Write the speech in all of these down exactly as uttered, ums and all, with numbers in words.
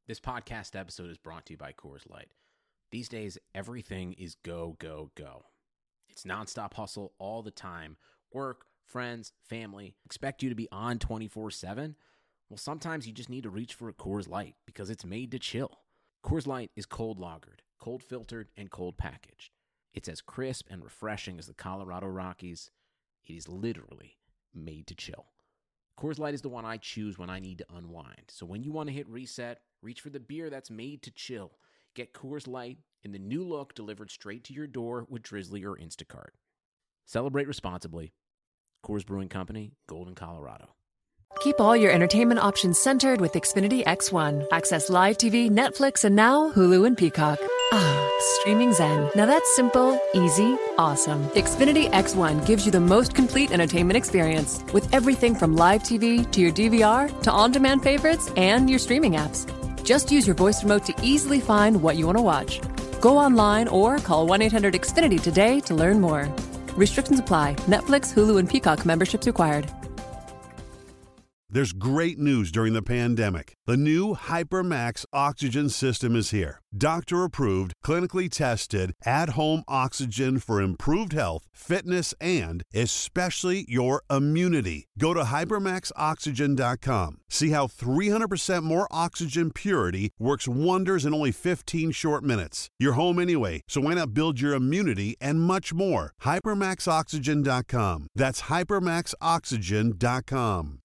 This podcast episode is brought to you by Coors Light. These days, everything is go, go, go. It's nonstop hustle all the time. Work, friends, family, expect you to be on twenty-four seven. Well, sometimes you just need to reach for a Coors Light because it's made to chill. Coors Light is cold lagered, cold filtered, and cold packaged. It's as crisp and refreshing as the Colorado Rockies. It is literally made to chill. Coors Light is the one I choose when I need to unwind. So when you want to hit reset, reach for the beer that's made to chill. Get Coors Light in the new look delivered straight to your door with Drizzly or Instacart. Celebrate responsibly. Coors Brewing Company, Golden, Colorado. Keep all your entertainment options centered with Xfinity X one. Access live T V, Netflix, and now Hulu and Peacock. Ah, streaming zen. Now that's simple, easy, awesome. Xfinity X one gives you the most complete entertainment experience with everything from live T V to your D V R to on-demand favorites and your streaming apps. Just use your voice remote to easily find what you want to watch. Go online or call one eight hundred X Finity today to learn more. Restrictions apply. Netflix, Hulu, and Peacock memberships required. There's great news during the pandemic. The new HyperMax oxygen system is here. Doctor-approved, clinically tested, at-home oxygen for improved health, fitness, and especially your immunity. Go to hypermax oxygen dot com. See how three hundred percent more oxygen purity works wonders in only fifteen short minutes. You're home anyway, so why not build your immunity and much more? hypermax oxygen dot com. That's hypermax oxygen dot com.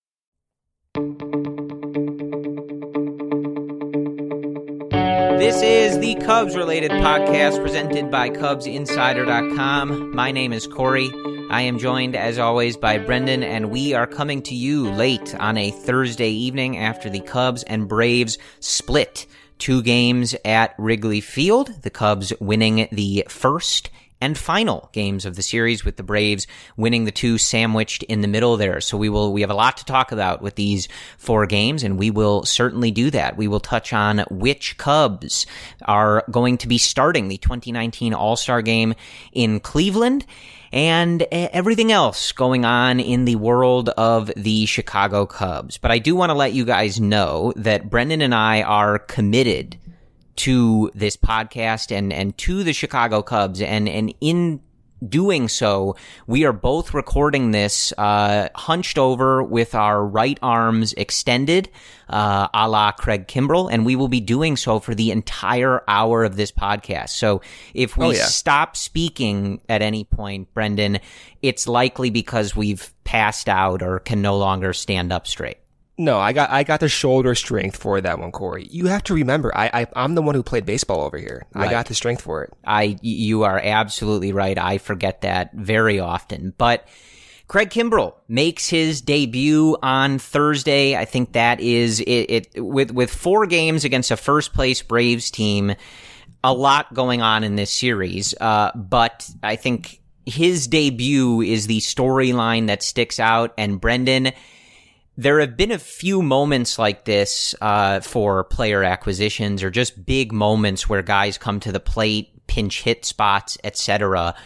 This is the Cubs-related podcast presented by Cubs Insider dot com. My name is Corey. I am joined, as always, by Brendan, and we are coming to you late on a Thursday evening after the Cubs and Braves split two games at Wrigley Field. The Cubs winning the first and final games of the series, with the Braves winning the two sandwiched in the middle there. So we will we have a lot to talk about with these four games, and we will certainly do that. We will touch on which Cubs are going to be starting the twenty nineteen All-Star Game in Cleveland, and everything else going on in the world of the Chicago Cubs. But I do want to let you guys know that Brendan and I are committed to this podcast and, and to the Chicago Cubs. And, and in doing so, we are both recording this, uh, hunched over with our right arms extended, uh, a la Craig Kimbrell. And we will be doing so for the entire hour of this podcast. So if we oh, yeah. stop speaking at any point, Brendan, it's likely because we've passed out or can no longer stand up straight. No, I got I got the shoulder strength for that one, Corey. You have to remember, I, I I'm the one who played baseball over here. Right. I got the strength for it. I you are absolutely right. I forget that very often. But Craig Kimbrell makes his debut on Thursday. I think that is it, it with with four games against a first place Braves team. A lot going on in this series, uh, but I think his debut is the storyline that sticks out. And Brendan, there have been a few moments like this uh for player acquisitions, or just big moments where guys come to the plate, pinch hit spots, et cetera,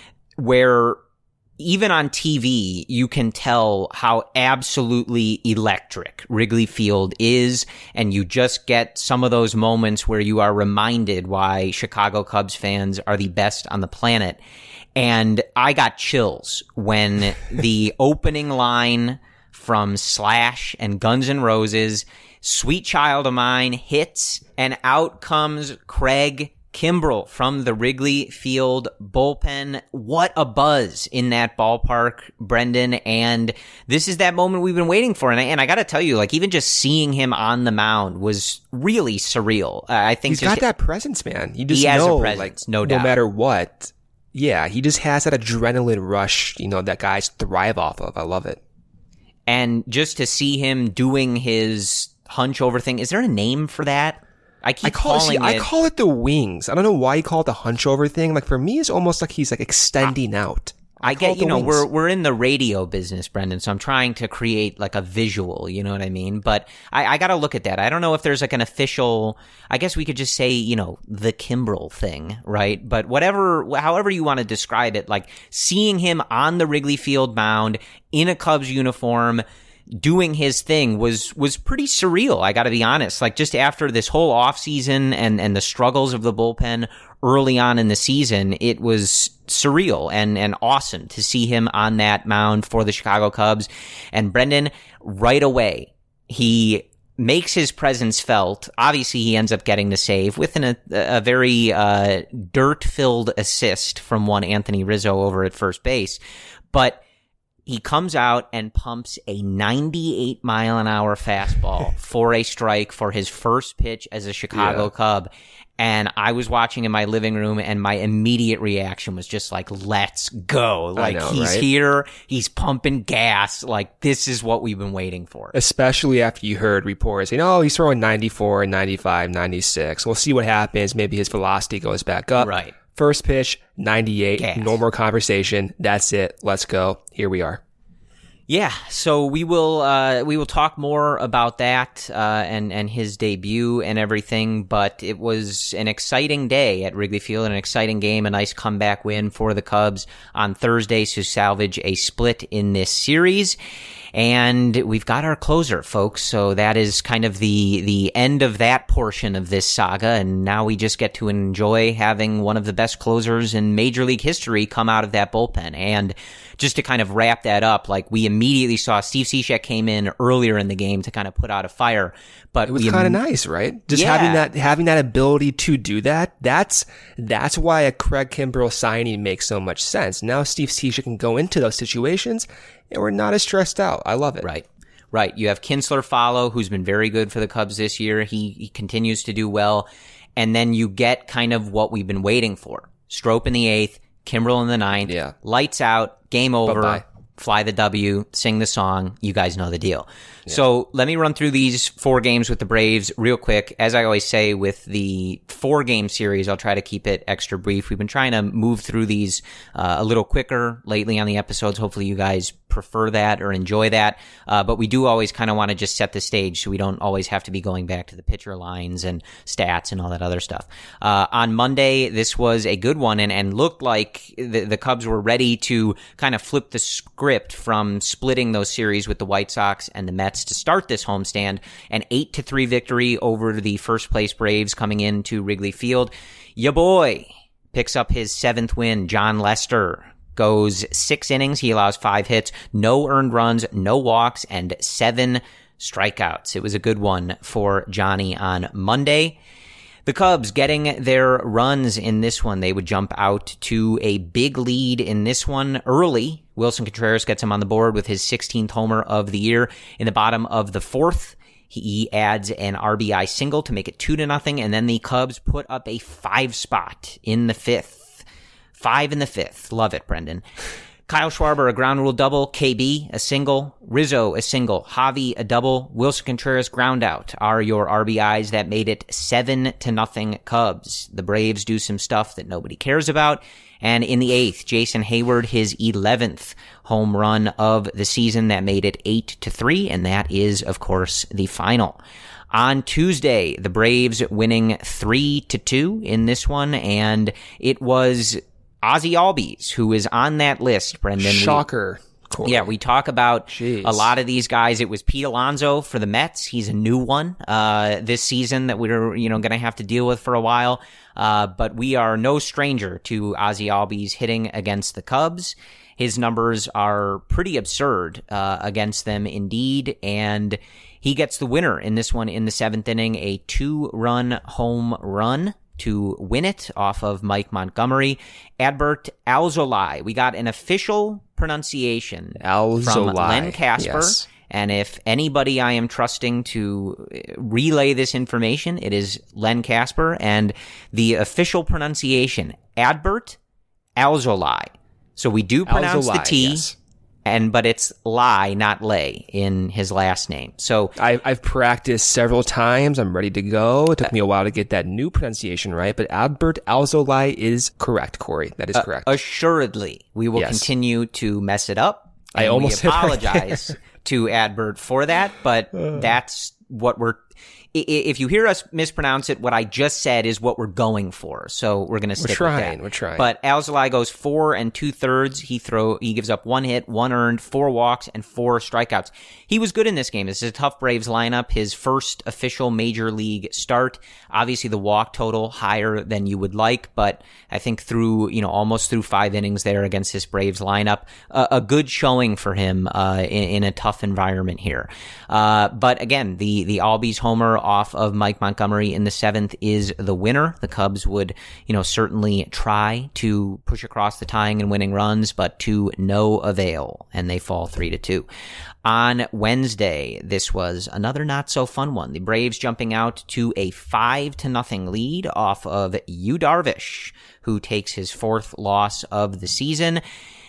where even on T V you can tell how absolutely electric Wrigley Field is, and you just get some of those moments where you are reminded why Chicago Cubs fans are the best on the planet. And I got chills when the opening line from Slash and Guns N' Roses, "Sweet Child of Mine," hits, and out comes Craig Kimbrell from the Wrigley Field bullpen. What a buzz in that ballpark, Brendan. And this is that moment we've been waiting for. And I, and I got to tell you, like, even just seeing him on the mound was really surreal. Uh, I think he's got that presence, man. You just he has know, a presence, like, no doubt. No matter what. Yeah, he just has that adrenaline rush, you know, that guys thrive off of. I love it. And just to see him doing his hunch over thing, is there a name for that? I keep I call, calling see, it. I call it the wings. I don't know why you call it the hunch over thing. Like, for me, it's almost like he's like extending I, out. I, I get, you know, wings. we're we're in the radio business, Brendan, so I'm trying to create like a visual, you know what I mean? But I, I got to look at that. I don't know if there's like an official, I guess we could just say, you know, the Kimbrell thing, right? But whatever, however you want to describe it, like seeing him on the Wrigley Field mound in a Cubs uniform, doing his thing was was pretty surreal, I got to be honest. Like, just after this whole offseason and, and the struggles of the bullpen early on in the season, it was surreal and, and awesome to see him on that mound for the Chicago Cubs. And Brendan, right away, he makes his presence felt. Obviously, he ends up getting the save with an, a, a very uh, dirt-filled assist from one Anthony Rizzo over at first base. But he comes out and pumps a ninety-eight mile an hour fastball for a strike for his first pitch as a Chicago yeah. Cub. And I was watching in my living room, and my immediate reaction was just like, let's go. Like, know, he's right? here. He's pumping gas. Like, this is what we've been waiting for. Especially after you heard reports saying, oh, he's throwing ninety-four, ninety-five, ninety-six. We'll see what happens. Maybe his velocity goes back up. Right. First pitch, ninety-eight. Gas. No more conversation. That's it. Let's go. Here we are. Yeah, so we will uh, we will talk more about that uh, and and his debut and everything. But it was an exciting day at Wrigley Field, an exciting game, a nice comeback win for the Cubs on Thursday to salvage a split in this series. And we've got our closer, folks. So that is kind of the the end of that portion of this saga. And now we just get to enjoy having one of the best closers in Major League history come out of that bullpen. And just to kind of wrap that up, like, we immediately saw Steve Cishek came in earlier in the game to kind of put out a fire. But it was kind of nice, right? Just yeah. having that having that ability to do that. That's that's why a Craig Kimbrel signing makes so much sense. Now Steve Cishek can go into those situations, and we're not as stressed out. I love it. Right. Right. You have Kinsler follow, who's been very good for the Cubs this year. He, he continues to do well. And then you get kind of what we've been waiting for. Strop in the eighth, Kimbrel in the ninth. Yeah. Lights out, game over. Bye-bye. Fly the W, sing the song. You guys know the deal. Yeah. So let me run through these four games with the Braves real quick. As I always say with the four-game series, I'll try to keep it extra brief. We've been trying to move through these uh, a little quicker lately on the episodes. Hopefully you guys prefer that or enjoy that. Uh, but we do always kind of want to just set the stage so we don't always have to be going back to the pitcher lines and stats and all that other stuff. Uh, on Monday, this was a good one and, and looked like the, the Cubs were ready to kind of flip the script from splitting those series with the White Sox and the Mets to start this homestand. An eight to three victory over the first place Braves coming into Wrigley Field. Ya boy picks up his seventh win. John Lester goes six innings. He allows five hits, no earned runs, no walks, and seven strikeouts. It was a good one for Johnny on Monday. The Cubs getting their runs in this one. They would jump out to a big lead in this one early. Wilson Contreras gets him on the board with his sixteenth homer of the year. In the bottom of the fourth, he adds an R B I single to make it two to nothing, and then the Cubs put up a five spot in the fifth. Five in the fifth. Love it, Brendan. Kyle Schwarber, a ground rule double. K B, a single. Rizzo, a single. Javi, a double. Wilson Contreras, ground out are your R B Is that made it seven to nothing Cubs. The Braves do some stuff that nobody cares about. And in the eighth, Jason Hayward, his eleventh home run of the season that made it eight to three. And that is, of course, the final. On Tuesday, the Braves winning three to two in this one. And it was Ozzie Albies, who is on that list, Brendan. Shocker. We, yeah, we talk about Jeez. a lot of these guys. It was Pete Alonso for the Mets. He's a new one uh, this season that we're you know going to have to deal with for a while. Uh, but we are no stranger to Ozzie Albies hitting against the Cubs. His numbers are pretty absurd uh, against them indeed, and he gets the winner in this one in the seventh inning, a two-run home run to win it off of Mike Montgomery. Adbert Alzolay. We got an official pronunciation Alzolay. from Len Casper. Yes. And if anybody I am trusting to relay this information, it is Len Casper. And the official pronunciation, Adbert Alzolay. So we do pronounce Alzolay, the T. Yes. And but it's lie, not lay, in his last name. So I, I've practiced several times. I'm ready to go. It took me a while to get that new pronunciation right, but Adbert Alzolay is correct, Corey. That is correct. Uh, assuredly, we will yes. continue to mess it up. And I almost we apologize to Adbert for that, but that's what we're. if you hear us mispronounce it, what I just said is what we're going for. So we're going to stick we're trying, with that. We're trying. But Alzolay goes four and two thirds. He throw he gives up one hit, one earned, four walks, and four strikeouts. He was good in this game. This is a tough Braves lineup. His first official major league start. Obviously, the walk total higher than you would like, but I think through you know almost through five innings there against this Braves lineup, uh, a good showing for him uh, in, in a tough environment here. Uh, but again, the the Albies homer off of Mike Montgomery in the seventh is the winner. The Cubs would, you know, certainly try to push across the tying and winning runs, but to no avail, and they fall three to two. On Wednesday, this was another not so fun one. The Braves jumping out to a five to nothing lead off of Yu Darvish, who takes his fourth loss of the season.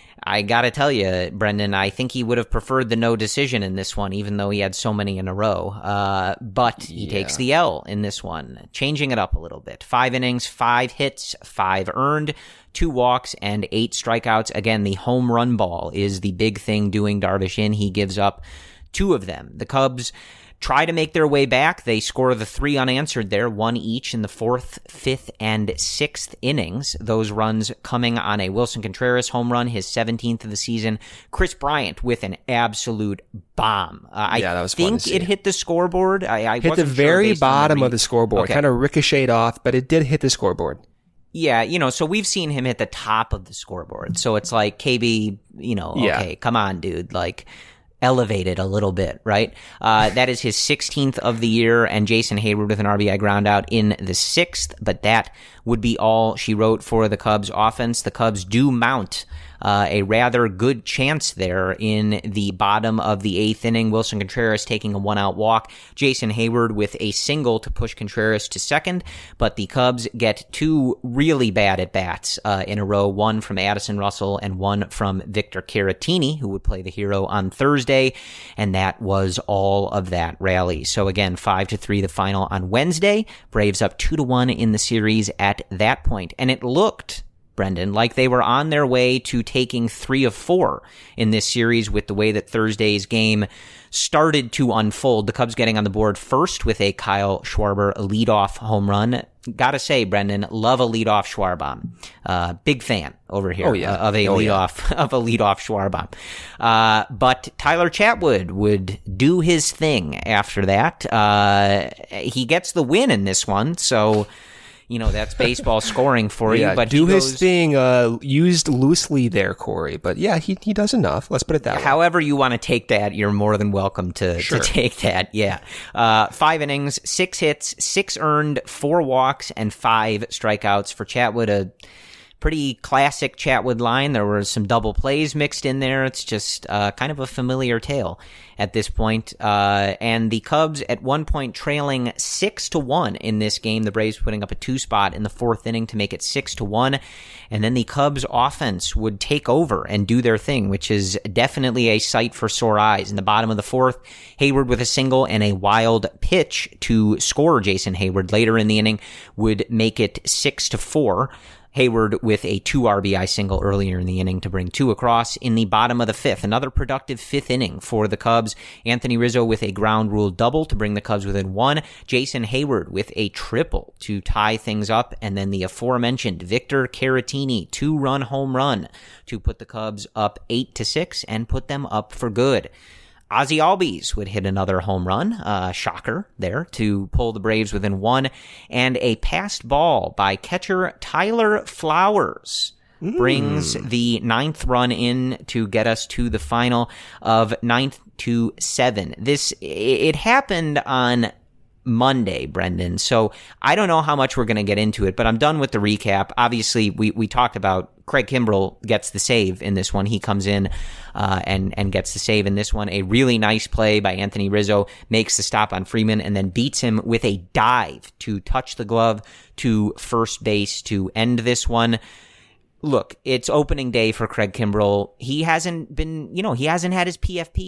I gotta tell you, Brendan, I think he would have preferred the no decision in this one, even though he had so many in a row. Uh, but he yeah. takes the L in this one, changing it up a little bit. Five innings, five hits, five earned, two walks, and eight strikeouts. Again, the home run ball is the big thing doing Darvish in. He gives up two of them. The Cubs try to make their way back. They score the three unanswered there, one each in the fourth, fifth, and sixth innings. Those runs coming on a Wilson Contreras home run, his seventeenth of the season. Chris Bryant with an absolute bomb. Uh, yeah, I that was fun think to see. It hit the scoreboard. I, I hit wasn't the very sure bottom the of the scoreboard. Okay. Kind of ricocheted off, but it did hit the scoreboard. Yeah, you know, so we've seen him hit the top of the scoreboard. So it's like, K B, you know, yeah. okay, come on, dude. Like, elevated a little bit, right? Uh, that is his sixteenth of the year, and Jason Hayward with an R B I ground out in the sixth, but that would be all she wrote for the Cubs offense. The Cubs do mount uh, a rather good chance there in the bottom of the eighth inning. Wilson Contreras taking a one-out walk. Jason Hayward with a single to push Contreras to second, but the Cubs get two really bad at-bats uh, in a row, one from Addison Russell and one from Victor Caratini, who would play the hero on Thursday, and that was all of that rally. So again, five to three the final on Wednesday. Braves up two to one in the series at that point, and it looked, Brendan, like they were on their way to taking three of four in this series with the way that Thursday's game started to unfold. The Cubs getting on the board first with a Kyle Schwarber leadoff home run. Gotta say, Brendan, love a leadoff Schwarbomb. Uh, big fan over here oh, yeah. uh, of a oh, leadoff yeah. of a leadoff Schwarbomb. Uh, but Tyler Chatwood would do his thing after that. Uh, he gets the win in this one, so you know, that's baseball scoring for yeah, you. But do goes, his thing, uh, used loosely there, Corey. But yeah, he he does enough. Let's put it that way. However you want to take that, you're more than welcome to, sure. to take that. Yeah. Uh, five innings, six hits, six earned, four walks, and five strikeouts for Chatwood. A pretty classic Chatwood line. There were some double plays mixed in there. It's just uh, kind of a familiar tale at this point. Uh, and the Cubs at one point trailing six to one in this game. The Braves putting up a two spot in the fourth inning to make it six to one. And then the Cubs offense would take over and do their thing, which is definitely a sight for sore eyes. In the bottom of the fourth, Hayward with a single and a wild pitch to score Jason Hayward later in the inning would make it six to four. Hayward with a two R B I single earlier in the inning to bring two across in the bottom of the fifth. Another productive fifth inning for the Cubs. Anthony Rizzo with a ground rule double to bring the Cubs within one. Jason Hayward with a triple to tie things up. And then the aforementioned Victor Caratini two-run home run to put the Cubs up eight to six and put them up for good. Ozzie Albies would hit another home run, uh, shocker there, to pull the Braves within one, and a passed ball by catcher Tyler Flowers mm. brings the ninth run in to get us to the final of ninth to seven. This, it happened on Monday, Brendan, so I don't know how much we're going to get into it, but I'm done with the recap. Obviously, we, we talked about Craig Kimbrell gets the save in this one. He comes in uh, and, and gets the save in this one. A really nice play by Anthony Rizzo, makes the stop on Freeman, and then beats him with a dive to touch the glove to first base to end this one. Look, it's opening day for Craig Kimbrell. He hasn't been, you know, he hasn't had his P F Ps.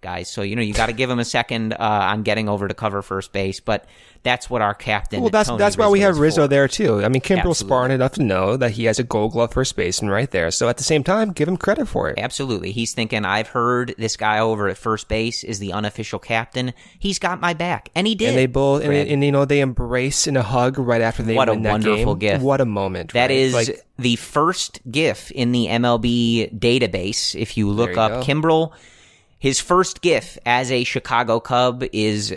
guys. So, you know, you got to give him a second uh, on getting over to cover first base. But that's what our captain. Well, that's Tony that's Rizzo why we have Rizzo for. there too. I mean, Kimbrel's Absolutely. smart enough to know that he has a Gold Glove first baseman right there. So at the same time, give him credit for it. Absolutely. He's thinking, I've heard this guy over at first base is the unofficial captain. He's got my back. And he did. And they both, and, Brad. and you know, they embrace in a hug right after they What a win that wonderful game. gift. What a moment. That right? is like, the first GIF in the M L B database. If you look There you up go. Kimbrel, his first GIF as a Chicago Cub is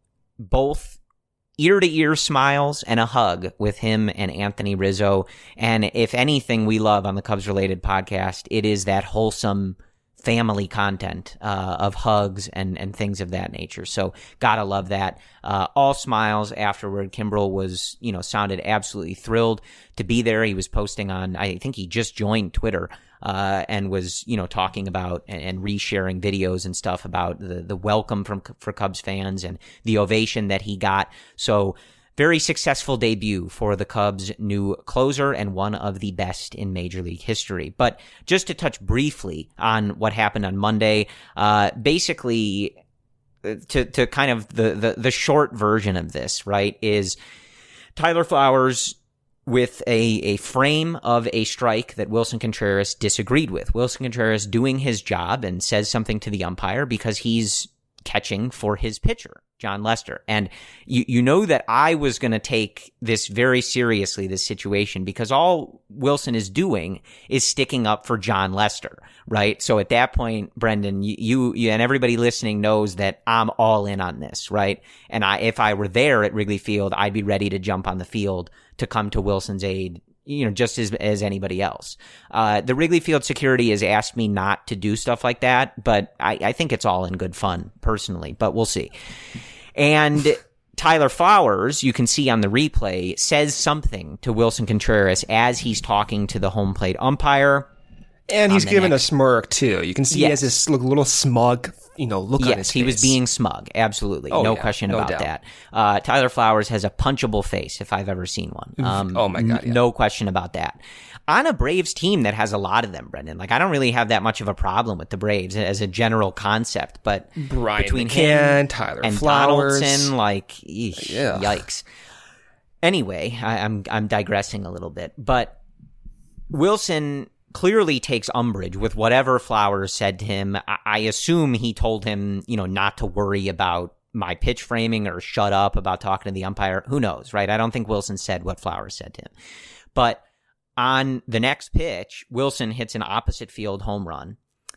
both ear-to-ear smiles and a hug with him and Anthony Rizzo. And if anything we love on the Cubs-related podcast, it is that wholesome family content uh, of hugs and, and things of that nature. So gotta love that. Uh, all smiles afterward. Kimbrel was, you know, sounded absolutely thrilled to be there. He was posting on, I think he just joined Twitter, uh, and was, you know, talking about and, and resharing videos and stuff about the, the welcome from, for Cubs fans and the ovation that he got. So very successful debut for the Cubs' new closer and one of the best in Major League history. But just to touch briefly on what happened on Monday, uh, basically to, to kind of the, the, the short version of this, right, is Tyler Flowers with a, a frame of a strike that Wilson Contreras disagreed with. Wilson Contreras doing his job and says something to the umpire because he's catching for his pitcher, John Lester. And you, you know that I was going to take this very seriously, this situation, because all Wilson is doing is sticking up for John Lester, right? So at that point, Brendan, you, you and everybody listening knows that I'm all in on this, right? And I, if I were there at Wrigley Field, I'd be ready to jump on the field to come to Wilson's aid, you know, just as as anybody else. Uh, the Wrigley Field security has asked me not to do stuff like that, but I, I think it's all in good fun, personally, but we'll see. And Tyler Flowers, you can see on the replay, says something to Wilson Contreras as he's talking to the home plate umpire. and he's giving next. a smirk too. You can see Yes. he has this look, little smug, you know, look on his Yes, face. he was being smug. Absolutely. Oh, no yeah, question no about doubt. that. Uh, Tyler Flowers has a punchable face, if I've ever seen one. Um, Oh, my God, n- yeah. No question about that. On a Braves team that has a lot of them, Brendan, like I don't really have that much of a problem with the Braves as a general concept, but Brian between McCann, him Tyler and Flowers. Donaldson, like, eesh, Yeah. yikes. Anyway, I, I'm I'm digressing a little bit, but Wilson clearly takes umbrage with whatever Flowers said to him. I, I assume he told him, you know, not to worry about my pitch framing or shut up about talking to the umpire. Who knows, right? I don't think Wilson said what Flowers said to him. But on the next pitch, Wilson hits an opposite field home run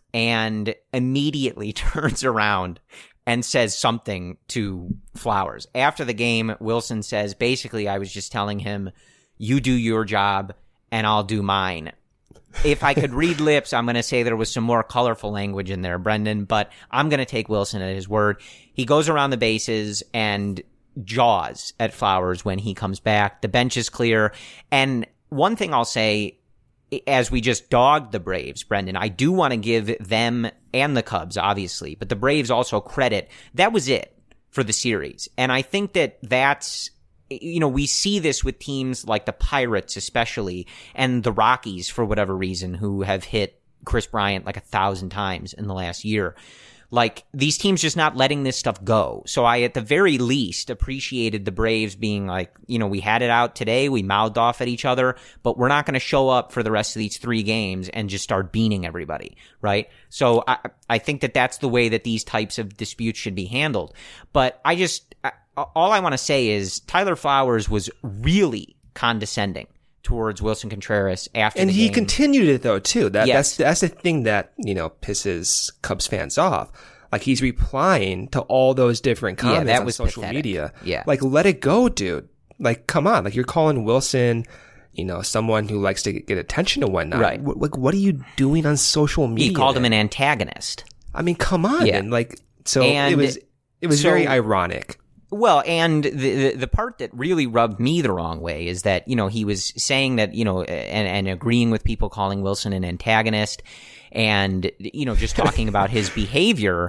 and immediately turns around and says something to Flowers. After the game, Wilson says, basically, I was just telling him, you do your job and I'll do mine. If I could read lips, I'm going to say there was some more colorful language in there, Brendan, but I'm going to take Wilson at his word. He goes around the bases and jaws at Flowers when he comes back. The bench is clear. And one thing I'll say, as we just dogged the Braves, Brendan, I do want to give them and the Cubs, obviously, but the Braves also credit. That was it for the series. And I think that that's, you know, we see this with teams like the Pirates especially, and the Rockies for whatever reason, who have hit Chris Bryant like a thousand times in the last year. Like, these teams just not letting this stuff go. So I, at the very least, appreciated the Braves being like, you know, we had it out today, we mouthed off at each other, but we're not going to show up for the rest of these three games and just start beating everybody, right? So I, I think that that's the way that these types of disputes should be handled. But I just, I, all I want to say is Tyler Flowers was really condescending towards Wilson Contreras after And the he game. continued it though too. That Yes. that's that's the thing that, you know, pisses Cubs fans off. Like, he's replying to all those different Yeah, comments that on was social pathetic. media. Yeah. Like, let it go, dude. Like, come on. Like, you're calling Wilson, you know, someone who likes to get attention and whatnot. Right. What, like, what are you doing on social media? He called him then? an antagonist. I mean, come on. Yeah. And like, so And it was it was so- very ironic. Well, and the, the the part that really rubbed me the wrong way is that, you know, he was saying that, you know, and, and agreeing with people calling Wilson an antagonist and, you know, just talking about his behavior.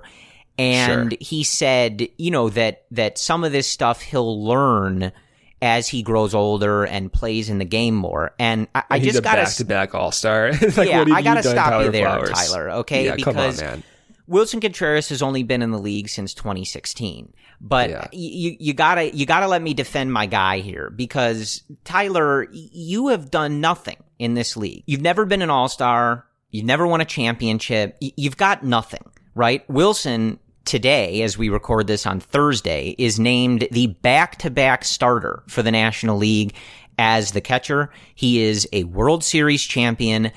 And Sure. he said, you know, that, that some of this stuff he'll learn as he grows older and plays in the game more. And I, I He's just a gotta, back-to-back all-star. Like, yeah, what have I gotta you done, stop Tyler you there, Flowers? Tyler. Okay, Yeah, because come on, man. Wilson Contreras has only been in the league since twenty sixteen, but yeah. you you gotta you gotta let me defend my guy here, because Tyler, you have done nothing in this league. You've never been an all-star. You've never won a championship. You've got nothing, right? Wilson today, as we record this on Thursday, is named the back-to-back starter for the National League as the catcher. He is a World Series champion.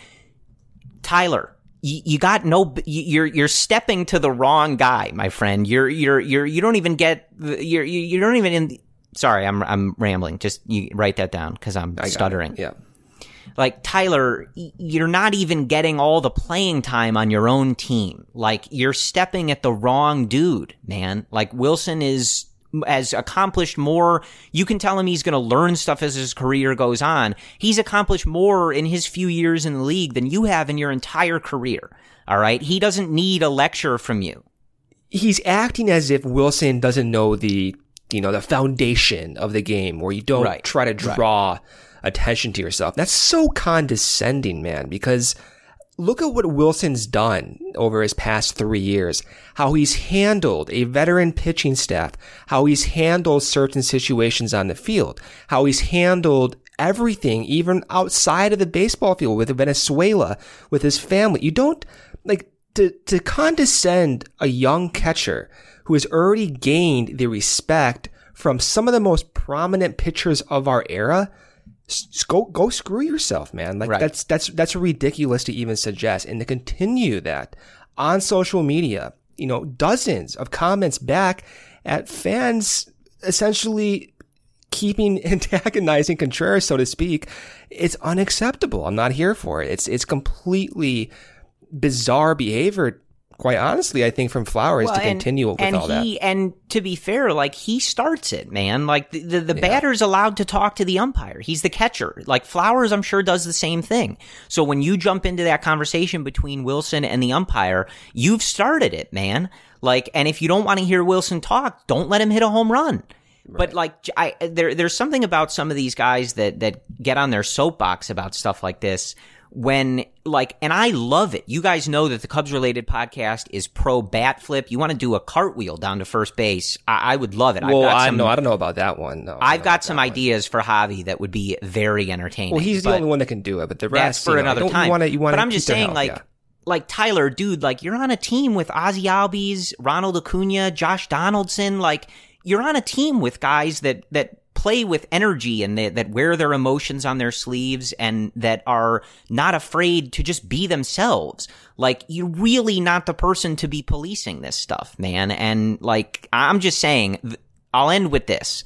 Tyler, You, you got no, you're, you're stepping to the wrong guy, my friend. You're, you're, you're, you don't even get, you're, you, you don't even in, sorry, I'm, I'm rambling. Just you write that down because I'm I stuttering. Yeah. Like, Tyler, you're not even getting all the playing time on your own team. Like, you're stepping at the wrong dude, man. Like, Wilson is, has accomplished more. You can tell him he's going to learn stuff as his career goes on. He's accomplished more in his few years in the league than you have in your entire career. All right. He doesn't need a lecture from you. He's acting as if Wilson doesn't know the, you know, the foundation of the game, where you don't right. try to draw right. attention to yourself. That's so condescending, man, because look at what Wilson's done over his past three years, how he's handled a veteran pitching staff, how he's handled certain situations on the field, how he's handled everything, even outside of the baseball field with Venezuela, with his family. You don't, like, to, to condescend a young catcher who has already gained the respect from some of the most prominent pitchers of our era. Go, go screw yourself, man. Like right. that's, that's, that's ridiculous to even suggest. And to continue that on social media, you know, dozens of comments back at fans essentially keeping antagonizing Contreras, so to speak. It's unacceptable. I'm not here for it. It's, it's completely bizarre behavior. Quite honestly, I think from Flowers well, to continue and, with all he, that. And to be fair, like, he starts it, man. Like, the, the, the yeah. batter's allowed to talk to the umpire. He's the catcher. Like, Flowers, I'm sure, does the same thing. So when you jump into that conversation between Wilson and the umpire, you've started it, man. Like, and if you don't want to hear Wilson talk, don't let him hit a home run. Right. But, like, I, there, there's something about some of these guys that, that get on their soapbox about stuff like this. When, like, and I love it. You guys know that the Cubs related podcast is pro bat flip. You want to do a cartwheel down to first base. I, I would love it. Well, I've got I some, know. I don't know about that one. No, I've got some ideas one. for Javi that would be very entertaining. Well, he's the only one that can do it, but the rest, that's for you know, another time. You wanna, you wanna but I'm just saying, health, like, yeah. like Tyler, dude, like, you're on a team with Ozzie Albies, Ronald Acuna, Josh Donaldson. Like, you're on a team with guys that, that, play with energy and they, that wear their emotions on their sleeves and that are not afraid to just be themselves. Like, you're really not the person to be policing this stuff, man. And, like, I'm just saying, I'll end with this.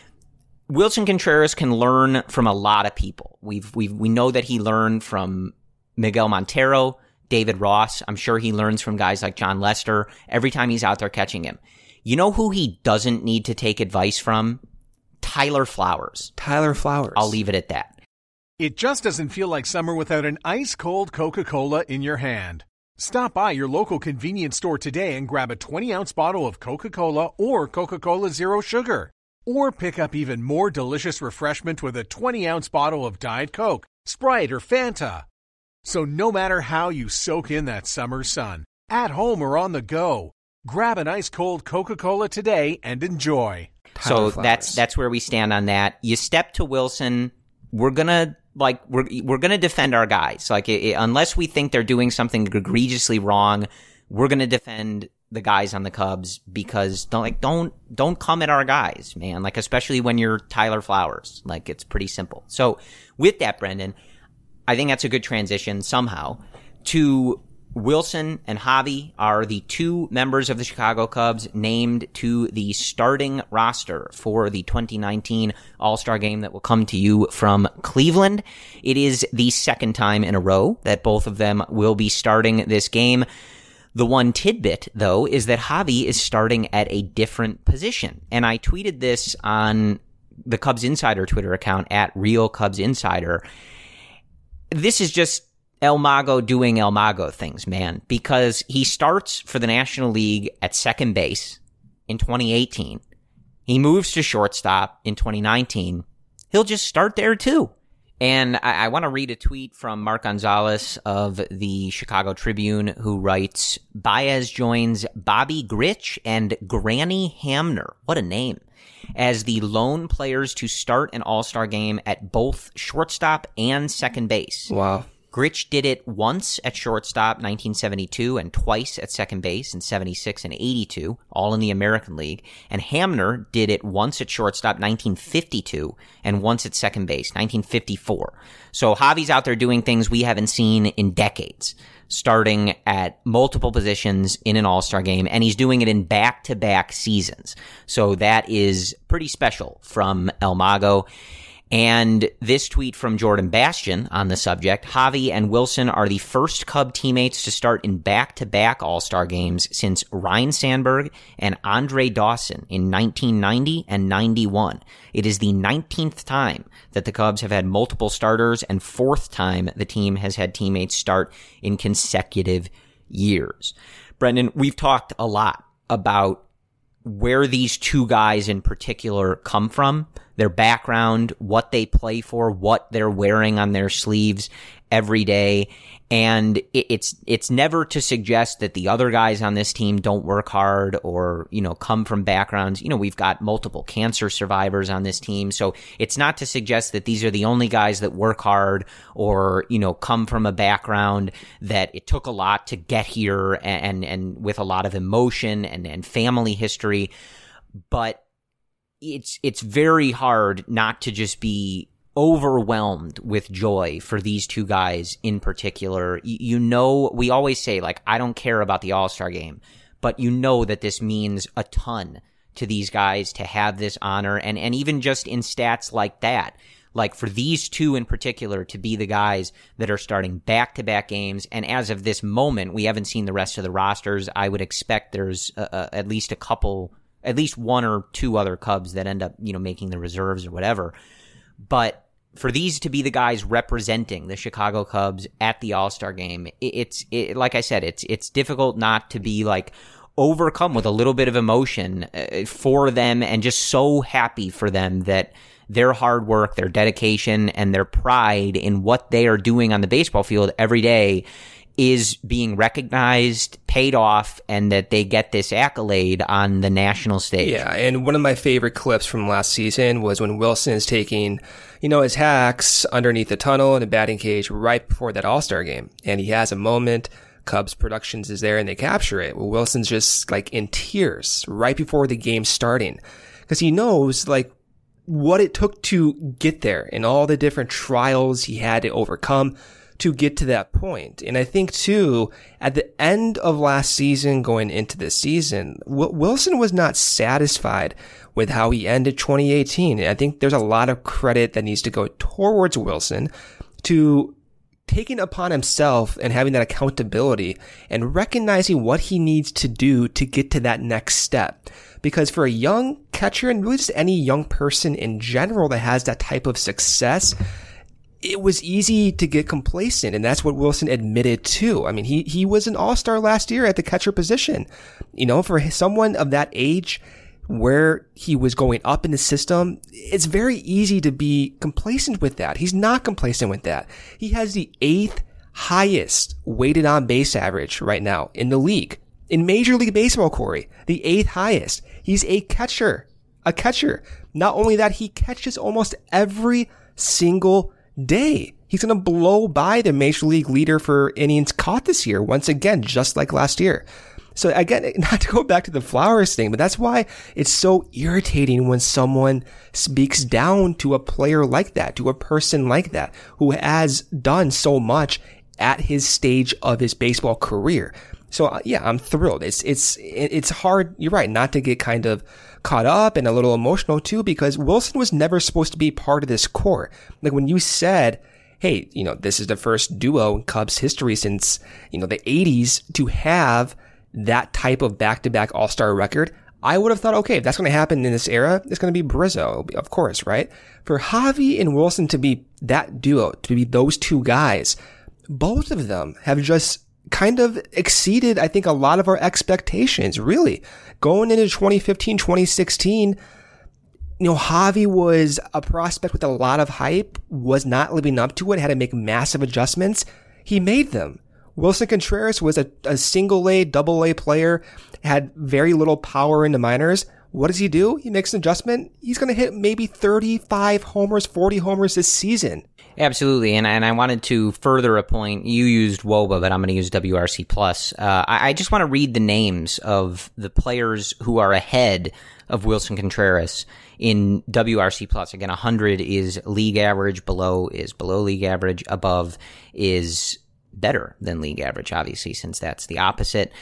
Wilson Contreras can learn from a lot of people. We've, we've, we know that he learned from Miguel Montero, David Ross. I'm sure he learns from guys like John Lester every time he's out there catching him. You know who he doesn't need to take advice from? Tyler Flowers. Tyler Flowers. I'll leave it at that. It just doesn't feel like summer without an ice-cold Coca-Cola in your hand. Stop by your local convenience store today and grab a twenty-ounce bottle of Coca-Cola or Coca-Cola Zero Sugar. Or pick up even more delicious refreshment with a twenty-ounce bottle of Diet Coke, Sprite, or Fanta. So no matter how you soak in that summer sun, at home or on the go, grab an ice-cold Coca-Cola today and enjoy. So that's that's where we stand on that. You step to Wilson. We're gonna like we're we're gonna defend our guys. Like it, it, unless we think they're doing something egregiously wrong, we're gonna defend the guys on the Cubs because don't like don't don't come at our guys, man. Like especially when you're Tyler Flowers. Like it's pretty simple. So with that, Brendan, I think that's a good transition somehow to. Wilson and Javi are the two members of the Chicago Cubs named to the starting roster for the twenty nineteen All-Star Game that will come to you from Cleveland. It is the second time in a row that both of them will be starting this game. The one tidbit, though, is that Javi is starting at a different position. And I tweeted this on the Cubs Insider Twitter account at Real Cubs Insider. This is just El Mago doing El Mago things, man, because he starts for the National League at second base in twenty eighteen. He moves to shortstop in twenty nineteen. He'll just start there too. And I, I want to read a tweet from Mark Gonzalez of the Chicago Tribune, who writes, Baez joins Bobby Grich and Granny Hamner. What a name. As the lone players to start an All-Star game at both shortstop and second base. Wow. Grich did it once at shortstop, nineteen seventy-two, and twice at second base in seventy-six and eighty-two, all in the American League. And Hamner did it once at shortstop, nineteen fifty-two, and once at second base, nineteen fifty-four. So Javi's out there doing things we haven't seen in decades, starting at multiple positions in an All-Star game, and he's doing it in back-to-back seasons. So that is pretty special from El Mago. And this tweet from Jordan Bastian on the subject, Javi and Wilson are the first Cub teammates to start in back-to-back All-Star games since Ryne Sandberg and Andre Dawson in nineteen ninety and ninety-one. It is the nineteenth time that the Cubs have had multiple starters and fourth time the team has had teammates start in consecutive years. Brendan, we've talked a lot about where these two guys in particular come from, their background, what they play for, what they're wearing on their sleeves every day. And it's, it's never to suggest that the other guys on this team don't work hard or, you know, come from backgrounds. You know, we've got multiple cancer survivors on this team. So it's not to suggest that these are the only guys that work hard or, you know, come from a background that it took a lot to get here and, and, and with a lot of emotion and, and family history. But it's, it's very hard not to just be overwhelmed with joy for these two guys in particular. You, you know, we always say, like, I don't care about the All-Star game, but you know that this means a ton to these guys to have this honor. And, and even just in stats like that, like for these two in particular to be the guys that are starting back-to-back games. And as of this moment, we haven't seen the rest of the rosters. I would expect there's a, a, at least a couple, at least one or two other Cubs that end up, you know, making the reserves or whatever. But for these to be the guys representing the Chicago Cubs at the All-Star game, it, it's it, like I said, it's it's difficult not to be like overcome with a little bit of emotion for them and just so happy for them that their hard work, their dedication, and their pride in what they are doing on the baseball field every day is being recognized, paid off, and that they get this accolade on the national stage. Yeah, and one of my favorite clips from last season was when Wilson is taking, you know, his hacks underneath the tunnel in the batting cage right before that All-Star game. And he has a moment, Cubs Productions is there, and they capture it. Well, Wilson's just like in tears right before the game starting because he knows like what it took to get there and all the different trials he had to overcome to get to that point. And I think too, at the end of last season going into this season, w- Wilson was not satisfied with how he ended twenty eighteen. I think there's a lot of credit that needs to go towards Wilson to taking upon himself and having that accountability and recognizing what he needs to do to get to that next step. Because for a young catcher and really just any young person in general that has that type of success, it was easy to get complacent, and that's what Wilson admitted too. I mean, he, he was an all-star last year at the catcher position. You know, for someone of that age where he was going up in the system, it's very easy to be complacent with that. He's not complacent with that. He has the eighth highest weighted on base average right now in the league. In Major League Baseball, Corey, the eighth highest. He's a catcher, a catcher. Not only that, he catches almost every single day. He's going to blow by the Major League leader for innings caught this year, once again, just like last year. So again, not to go back to the Flowers thing, but that's why it's so irritating when someone speaks down to a player like that, to a person like that, who has done so much at his stage of his baseball career. So uh, yeah, I'm thrilled. It's, it's, it's hard. You're right. Not to get kind of caught up and a little emotional too, because Wilson was never supposed to be part of this core. Like when you said, hey, you know, this is the first duo in Cubs history since, you know, the eighties to have that type of back-to-back all-star record, I would have thought, okay, if that's going to happen in this era, it's going to be Brizzo, of course, right? For Javi and Wilson to be that duo, to be those two guys, both of them have just kind of exceeded, I think, a lot of our expectations, really. Going into twenty fifteen, twenty sixteen, you know, Javi was a prospect with a lot of hype, was not living up to it, had to make massive adjustments. He made them. Wilson Contreras was a, a single A, double A player, had very little power in the minors. What does he do? He makes an adjustment. He's going to hit maybe thirty-five homers, forty homers this season. Absolutely, and and I wanted to further a point. You used W O B A, but I'm going to use W R C plus. Uh, I, I just want to read the names of the players who are ahead of Wilson Contreras in W R C plus. Again, one hundred is league average, below is below league average, above is better than league average, obviously, since that's the opposite.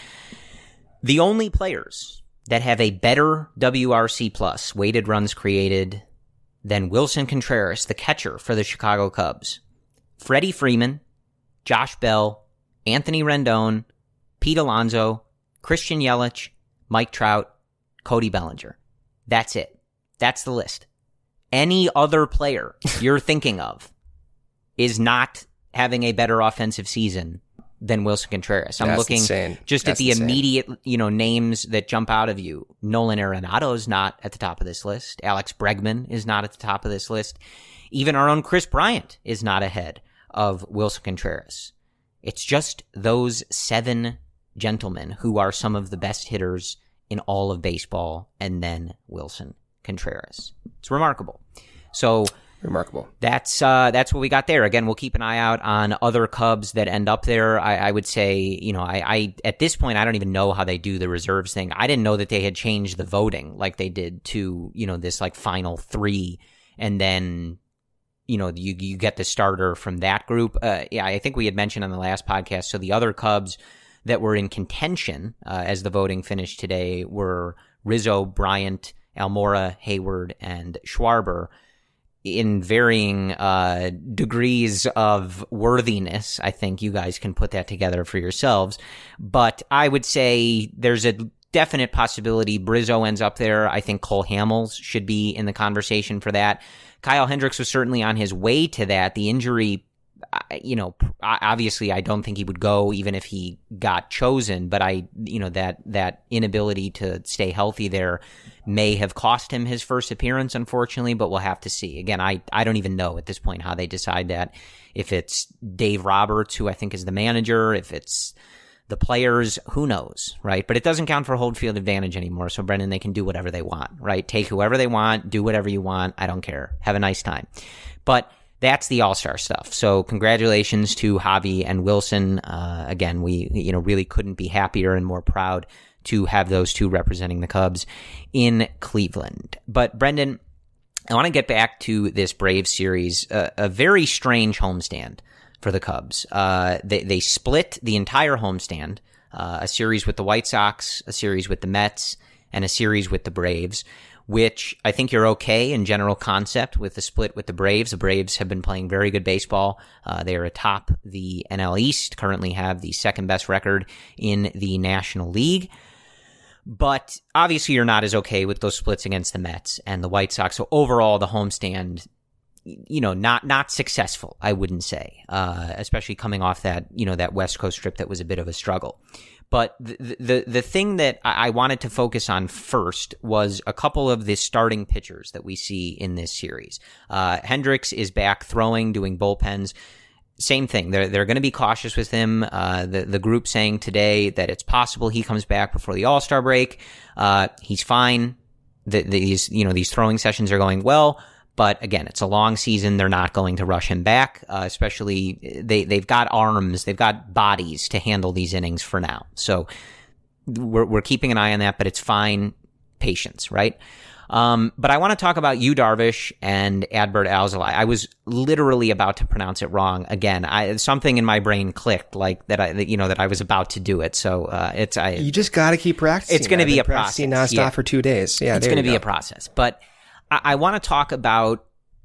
The only players that have a better W R C plus, weighted runs created, than Wilson Contreras, the catcher for the Chicago Cubs, Freddie Freeman, Josh Bell, Anthony Rendon, Pete Alonso, Christian Yelich, Mike Trout, Cody Bellinger. That's it. That's the list. Any other player you're thinking of is not having a better offensive season than Wilson Contreras. I'm That's looking insane. just That's at the insane. immediate, you know, names that jump out of you. Nolan Arenado's not at the top of this list. Alex Bregman is not at the top of this list. Even our own Chris Bryant is not ahead of Wilson Contreras. It's just those seven gentlemen who are some of the best hitters in all of baseball, and then Wilson Contreras. It's remarkable. So Remarkable. That's uh, that's what we got there. Again, we'll keep an eye out on other Cubs that end up there. I, I would say, you know, I, I at this point, I don't even know how they do the reserves thing. I didn't know that they had changed the voting like they did to, you know, this like final three, and then, you know, you you get the starter from that group. Uh, yeah, I think we had mentioned on the last podcast. So the other Cubs that were in contention uh, as the voting finished today were Rizzo, Bryant, Almora, Hayward, and Schwarber, in varying uh, degrees of worthiness. I think you guys can put that together for yourselves. But I would say there's a definite possibility Brizzo ends up there. I think Cole Hamels should be in the conversation for that. Kyle Hendricks was certainly on his way to that. The injury, you know, obviously I don't think he would go even if he got chosen, but I, you know, that, that inability to stay healthy there may have cost him his first appearance, unfortunately, but we'll have to see. Again, I, I don't even know at this point how they decide that. If it's Dave Roberts, who I think is the manager, if it's the players, who knows, right? But it doesn't count for home field advantage anymore. So, Brendan, they can do whatever they want, right? Take whoever they want, do whatever you want. I don't care. Have a nice time. But that's the all-star stuff. So congratulations to Javi and Wilson. Uh, again, we, you know, really couldn't be happier and more proud to have those two representing the Cubs in Cleveland. But Brendan, I want to get back to this Braves series, uh, a very strange homestand for the Cubs. Uh, they, they split the entire homestand, uh, a series with the White Sox, a series with the Mets, and a series with the Braves, which I think you're okay in general concept with the split with the Braves. The Braves have been playing very good baseball. Uh, they are atop the N L East, currently have the second best record in the National League. But obviously you're not as okay with those splits against the Mets and the White Sox. So overall, the homestand, you know, not, not successful, I wouldn't say, uh, especially coming off that, you know, that West Coast trip that was a bit of a struggle. But the, the, the thing that I wanted to focus on first was a couple of the starting pitchers that we see in this series. Uh, Hendricks is back throwing, doing bullpens. Same thing. They're, they're going to be cautious with him. Uh, the, the group saying today that it's possible he comes back before the All-Star break. Uh, he's fine. The, these, you know, these throwing sessions are going well. But again, it's a long season. They're not going to rush him back, uh, especially they, they've got arms, they've got bodies to handle these innings for now. So we're, we're keeping an eye on that, but it's fine. Patience, right? Um, but I want to talk about Yu Darvish and Adbert Alzolay. I was literally about to pronounce it wrong again. I, something in my brain clicked, like that I, you know, that I was about to do it. So, uh, it's, I, you just got to keep practicing. It's going to be a process. Practicing nonstop yeah. for two days. Yeah. It's going to be a process, but I, I want to talk about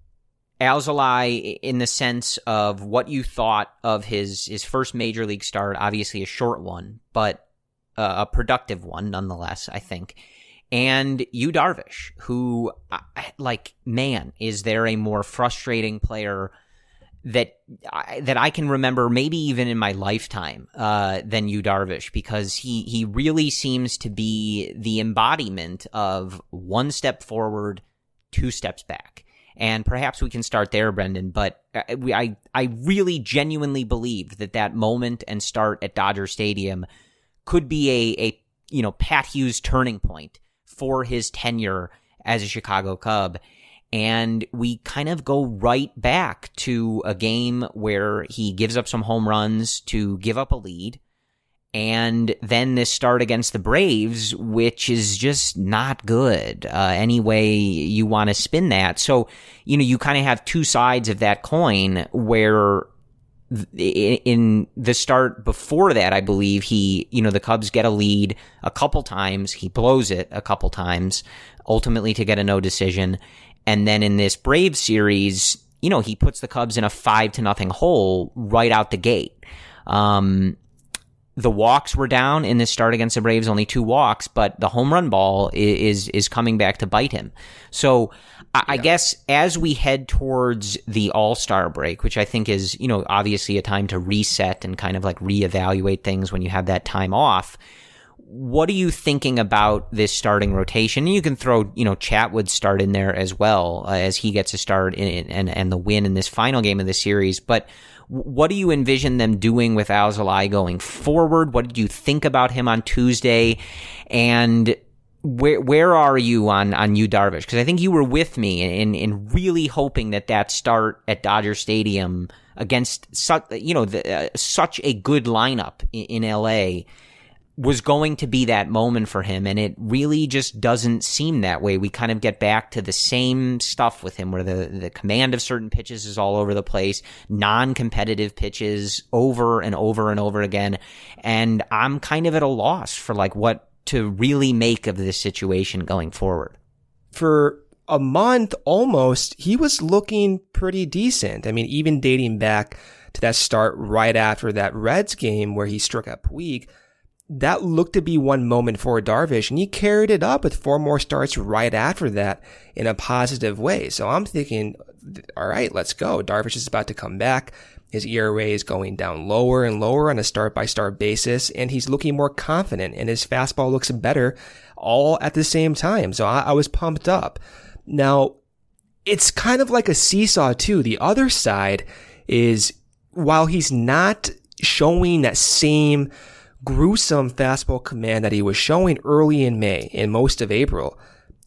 Alzolay in the sense of what you thought of his, his first major league start, obviously a short one, but uh, a productive one nonetheless, I think. And Yu Darvish, who, like, man, is there a more frustrating player that I, that I can remember, maybe even in my lifetime, uh, than Yu Darvish, because he he really seems to be the embodiment of one step forward, two steps back. And perhaps we can start there, Brendan, but I, I really genuinely believe that that moment and start at Dodger Stadium could be a, a, you know, Pat Hughes turning point for his tenure as a Chicago Cub. And we kind of go right back to a game where he gives up some home runs to give up a lead. And then this start against the Braves, which is just not good, uh, any way you want to spin that. So, you know, you kind of have two sides of that coin where in the start before that, I believe he, you know, the Cubs get a lead a couple times. He blows it a couple times, ultimately to get a no decision. And then in this Braves series, you know, he puts the Cubs in a five to nothing hole right out the gate. Um, The walks were down in this start against the Braves, only two walks, but the home run ball is is coming back to bite him. So I, yeah. I guess as we head towards the All-Star break, which I think is, you know, obviously a time to reset and kind of like reevaluate things when you have that time off, what are you thinking about this starting rotation? And you can throw, you know, Chatwood's start in there as well, uh, as he gets a start in, and, and the win in this final game of the series. But what do you envision them doing with Alzolay going forward? What did you think about him on Tuesday? And where where are you on, on Yu Darvish? Because I think you were with me in, in really hoping that that start at Dodger Stadium against such, you know, the, uh, such a good lineup in, in L A was going to be that moment for him, and it really just doesn't seem that way. We kind of get back to the same stuff with him where the, the command of certain pitches is all over the place, non-competitive pitches over and over and over again, and I'm kind of at a loss for like what to really make of this situation going forward. For a month almost, he was looking pretty decent. I mean, even dating back to that start right after that Reds game where he struck out Puig, that looked to be one moment for Darvish, and he carried it up with four more starts right after that in a positive way. So I'm thinking, all right, let's go. Darvish is about to come back. His E R A is going down lower and lower on a start-by-start basis, and he's looking more confident, and his fastball looks better all at the same time. So I, I was pumped up. Now, it's kind of like a seesaw, too. The other side is, while he's not showing that same gruesome fastball command that he was showing early in May and most of April,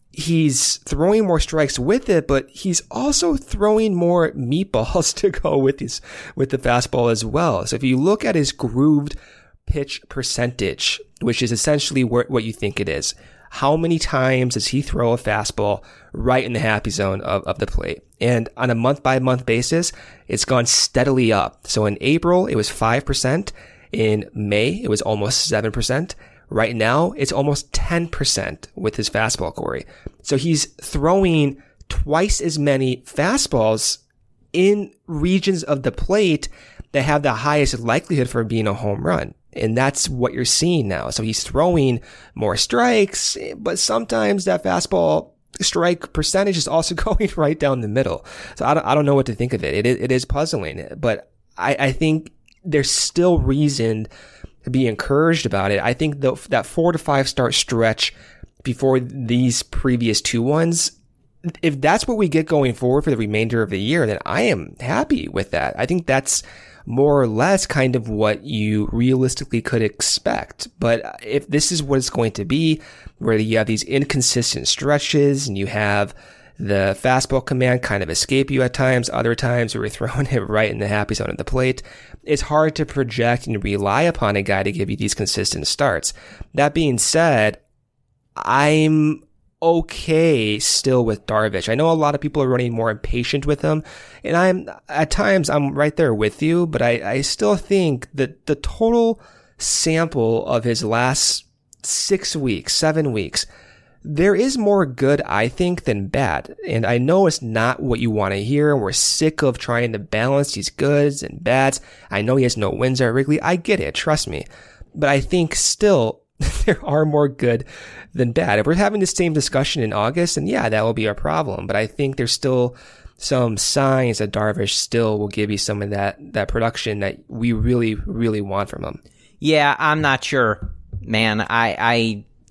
he's throwing more strikes with it, but he's also throwing more meatballs to go with his, with the fastball as well. So if you look at his grooved pitch percentage, which is essentially what you think it is, how many times does he throw a fastball right in the happy zone of, of the plate? And on a month by month basis, it's gone steadily up. So in April, it was five percent. In May, it was almost seven percent. Right now, it's almost ten percent with his fastball, Corey. So he's throwing twice as many fastballs in regions of the plate that have the highest likelihood for being a home run. And that's what you're seeing now. So he's throwing more strikes, but sometimes that fastball strike percentage is also going right down the middle. So I don't, I don't know what to think of it. It is, it is puzzling, but I, I think there's still reason to be encouraged about it. I think the, that four to five start stretch before these previous two ones, if that's what we get going forward for the remainder of the year, then I am happy with that. I think that's more or less kind of what you realistically could expect. But if this is what it's going to be, where you have these inconsistent stretches and you have the fastball command kind of escape you at times, other times where you're throwing it right in the happy zone of the plate, it's hard to project and rely upon a guy to give you these consistent starts. That being said, I'm okay still with Darvish. I know a lot of people are running more impatient with him, and I'm, at times, I'm right there with you, but I, I still think that the total sample of his last six weeks, seven weeks, there is more good, I think, than bad. And I know it's not what you want to hear. We're sick of trying to balance these goods and bads. I know he has no wins at Wrigley. I get it. Trust me. But I think still there are more good than bad. If we're having the same discussion in August, then yeah, that will be a problem. But I think there's still some signs that Darvish still will give you some of that, that production that we really, really want from him. Yeah, I'm not sure, man. I, I,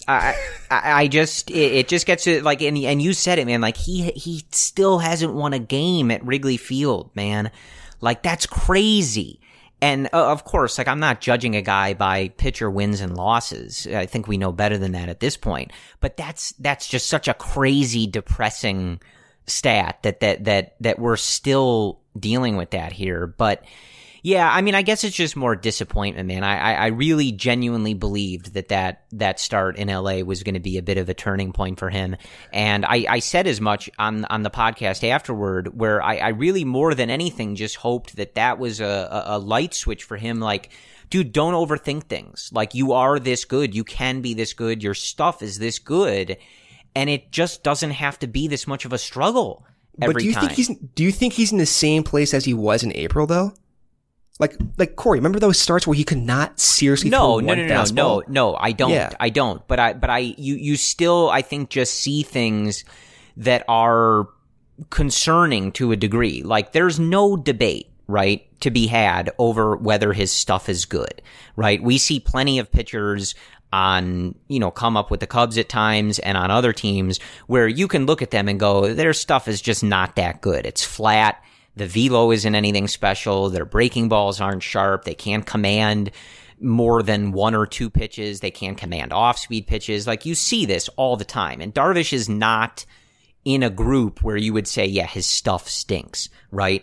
I, I, I just, it, it just gets to like, and, and you said it, man, like he, he still hasn't won a game at Wrigley Field, man. Like that's crazy. And uh, of course, like I'm not judging a guy by pitcher wins and losses. I think we know better than that at this point, but that's, that's just such a crazy, depressing stat that, that, that, that we're still dealing with that here. But yeah, I mean, I guess it's just more disappointment, man. I, I, I really genuinely believed that, that that start in L A was going to be a bit of a turning point for him. And I, I said as much on, on the podcast afterward, where I, I really more than anything just hoped that that was a, a, a light switch for him. Like, dude, don't overthink things. Like, you are this good. You can be this good. Your stuff is this good. And it just doesn't have to be this much of a struggle every but do you time. think he's do you think he's in the same place as he was in April, though? Like, like Corey, remember those starts where he could not seriously no, throw no, one no, no, fastball? no, no, I don't, Yeah. I don't. But I, but I, you, you still, I think, just see things that are concerning to a degree. Like, there's no debate, right, to be had over whether his stuff is good, right? We see plenty of pitchers on, you know, come up with the Cubs at times and on other teams where you can look at them and go, their stuff is just not that good. It's flat. The velo isn't anything special. Their breaking balls aren't sharp. They can't command more than one or two pitches. They can't command off-speed pitches. Like, you see this all the time. And Darvish is not in a group where you would say, yeah, his stuff stinks, right?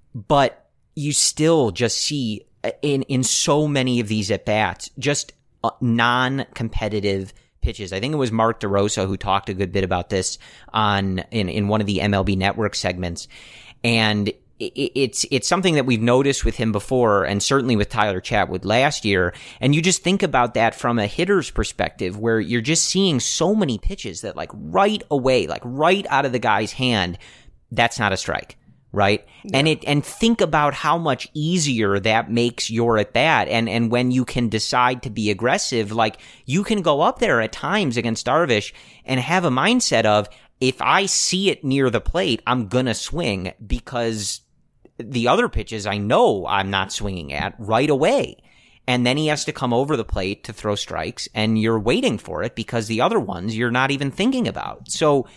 But you still just see in, in so many of these at-bats, just non-competitive pitches. I think it was Mark DeRosa who talked a good bit about this on in, in one of the M L B Network segments. And it's it's something that we've noticed with him before, and certainly with Tyler Chatwood last year. And you just think about that from a hitter's perspective, where you're just seeing so many pitches that, like, right away, like right out of the guy's hand, that's not a strike, right? Yeah. And it and think about how much easier that makes your at bat. And and when you can decide to be aggressive, like, you can go up there at times against Darvish and have a mindset of, if I see it near the plate, I'm gonna swing, because the other pitches I know I'm not swinging at right away. And then he has to come over the plate to throw strikes, and you're waiting for it because the other ones you're not even thinking about. So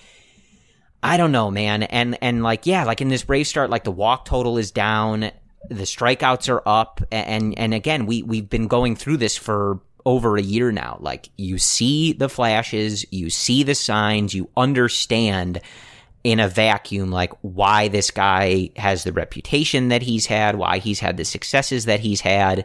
I don't know, man. And, and like, yeah, like in this Brave start, like the walk total is down, the strikeouts are up. And, and again, we, we've been going through this for over a year now. Like, you see the flashes, you see the signs, you understand in a vacuum, like, why this guy has the reputation that he's had, why he's had the successes that he's had.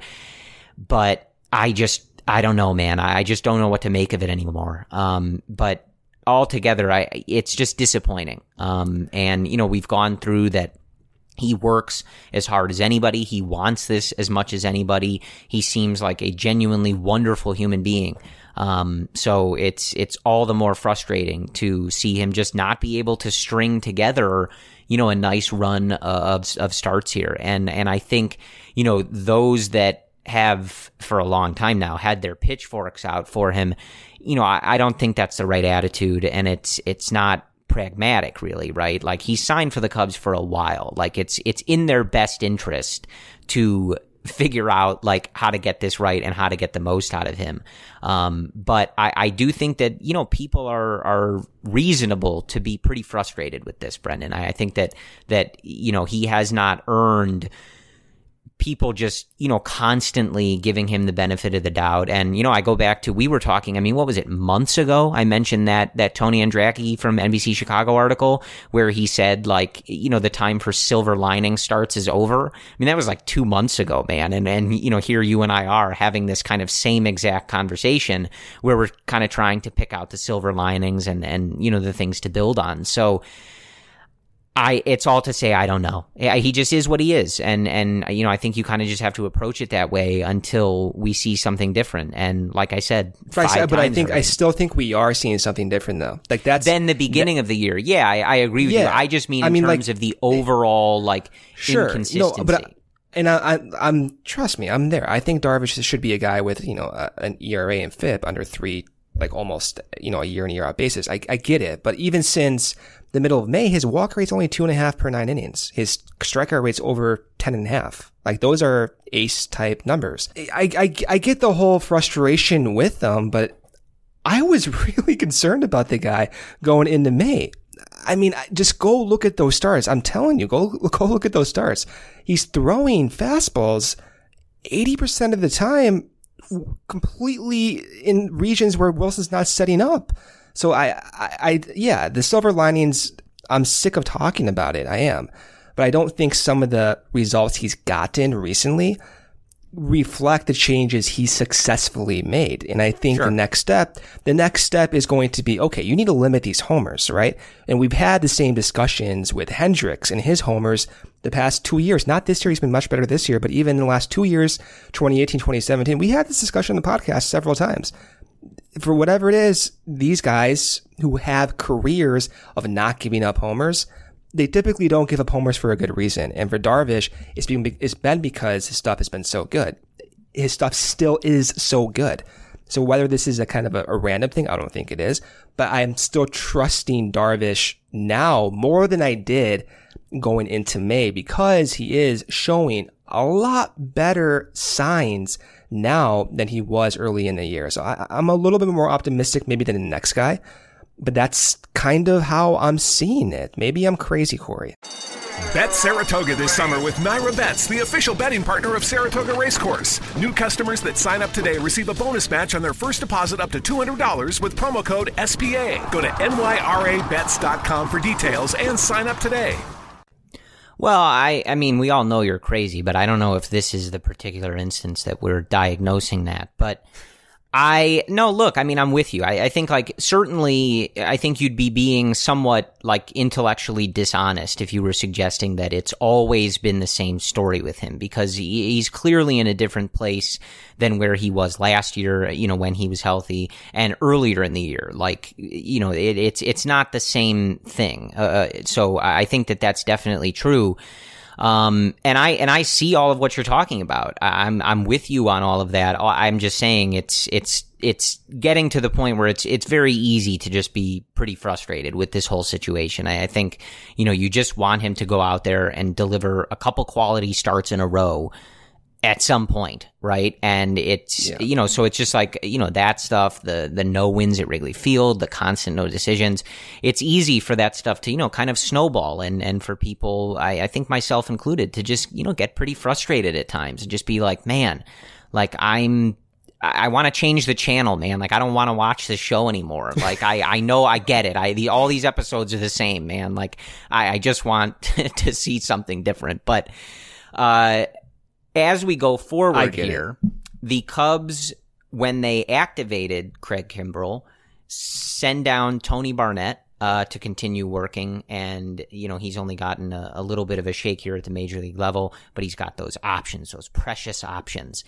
But I just, I don't know, man. I just don't know what to make of it anymore. Um, but altogether, I, it's just disappointing. Um, and, you know, we've gone through that. He works as hard as anybody. He wants this as much as anybody. He seems like a genuinely wonderful human being. Um, so it's, it's all the more frustrating to see him just not be able to string together, you know, a nice run of, of starts here. And, and I think, you know, those that have for a long time now had their pitchforks out for him, you know, I, I don't think that's the right attitude. And it's, it's not pragmatic, really, right? Like, he's signed for the Cubs for a while. Like, it's it's in their best interest to figure out, like, how to get this right and how to get the most out of him. Um, but I, I do think that, you know, people are are reasonable to be pretty frustrated with this, Brendan. I, I think that that you know, he has not earned people just, you know, constantly giving him the benefit of the doubt. And, you know, I go back to, we were talking, I mean, what was it, months ago? I mentioned that, that Tony Andracki from N B C Chicago article where he said, like, you know, the time for silver lining starts is over. I mean, that was like two months ago, man. And, and, you know, here you and I are having this kind of same exact conversation where we're kind of trying to pick out the silver linings and, and, you know, the things to build on. So, I, it's all to say, I don't know. He just is what he is. And, and, you know, I think you kind of just have to approach it that way until we see something different. And like I said, five right, but I think, already. I still think we are seeing something different though. Like, that's then the beginning that, of the year. Yeah, I, I agree with yeah, you. I just mean I in mean, terms like, of the overall, like, sure, inconsistency. No, but I, and I, I, I'm, trust me, I'm there. I think Darvish should be a guy with, you know, a, an E R A and F I P under three, like almost, you know, a year in, year out basis. I, I get it. But even since the middle of May, his walk rate's only two and a half per nine innings. His strikeout rate's over ten and a half. Like, those are ace type numbers. I, I, I get the whole frustration with them, but I was really concerned about the guy going into May. I mean, just go look at those starts. I'm telling you, go, go look at those starts. He's throwing fastballs eighty percent of the time completely in regions where Wilson's not setting up. So I, I, I, yeah, the silver linings, I'm sick of talking about it. I am. But I don't think some of the results he's gotten recently reflect the changes he successfully made. And I think sure. the next step, the next step is going to be, okay, you need to limit these homers, right? And we've had the same discussions with Hendricks and his homers the past two years. Not this year. He's been much better this year, but even in the last two years, twenty eighteen, twenty seventeen, we had this discussion on the podcast several times. For whatever it is, these guys who have careers of not giving up homers, they typically don't give up homers for a good reason. And for Darvish, it's been, it's been because his stuff has been so good. His stuff still is so good. So whether this is a kind of a, a random thing, I don't think it is. But I'm still trusting Darvish now more than I did going into May because he is showing a lot better signs now than he was early in the year. So I, I'm a little bit more optimistic maybe than the next guy. But that's kind of how I'm seeing it. Maybe I'm crazy, Corey. Bet Saratoga this summer with Naira Bets, the official betting partner of Saratoga Racecourse. New customers that sign up today receive a bonus match on their first deposit up to two hundred dollars with promo code S P A. Go to N Y R A bets dot com for details and sign up today. Well, I, I mean, we all know you're crazy, but I don't know if this is the particular instance that we're diagnosing that. But I, no, look, I mean, I'm with you. I, I think, like, certainly, I think you'd be being somewhat, like, intellectually dishonest if you were suggesting that it's always been the same story with him, because he, he's clearly in a different place than where he was last year, you know, when he was healthy, and earlier in the year. Like, you know, it, it's, it's not the same thing. Uh, so I think that that's definitely true. Um, and I, and I see all of what you're talking about. I'm, I'm with you on all of that. I'm just saying it's, it's, it's getting to the point where it's, it's very easy to just be pretty frustrated with this whole situation. I, I think, you know, you just want him to go out there and deliver a couple quality starts in a row at some point, right? And it's, yeah. you know, so it's just like, you know, that stuff, the, the no wins at Wrigley Field, the constant no decisions. It's easy for that stuff to, you know, kind of snowball and, and for people, I, I think myself included, to just, you know, get pretty frustrated at times and just be like, man, like I'm, I want to change the channel, man. Like, I don't want to watch this show anymore. Like, I, I know I get it. I, the, all these episodes are the same, man. Like, I, I just want to see something different. But, uh, as we go forward here, it. the Cubs, when they activated Craig Kimbrel, send down Tony Barnett uh, to continue working. And, you know, he's only gotten a, a little bit of a shake here at the major league level, but he's got those options, those precious options.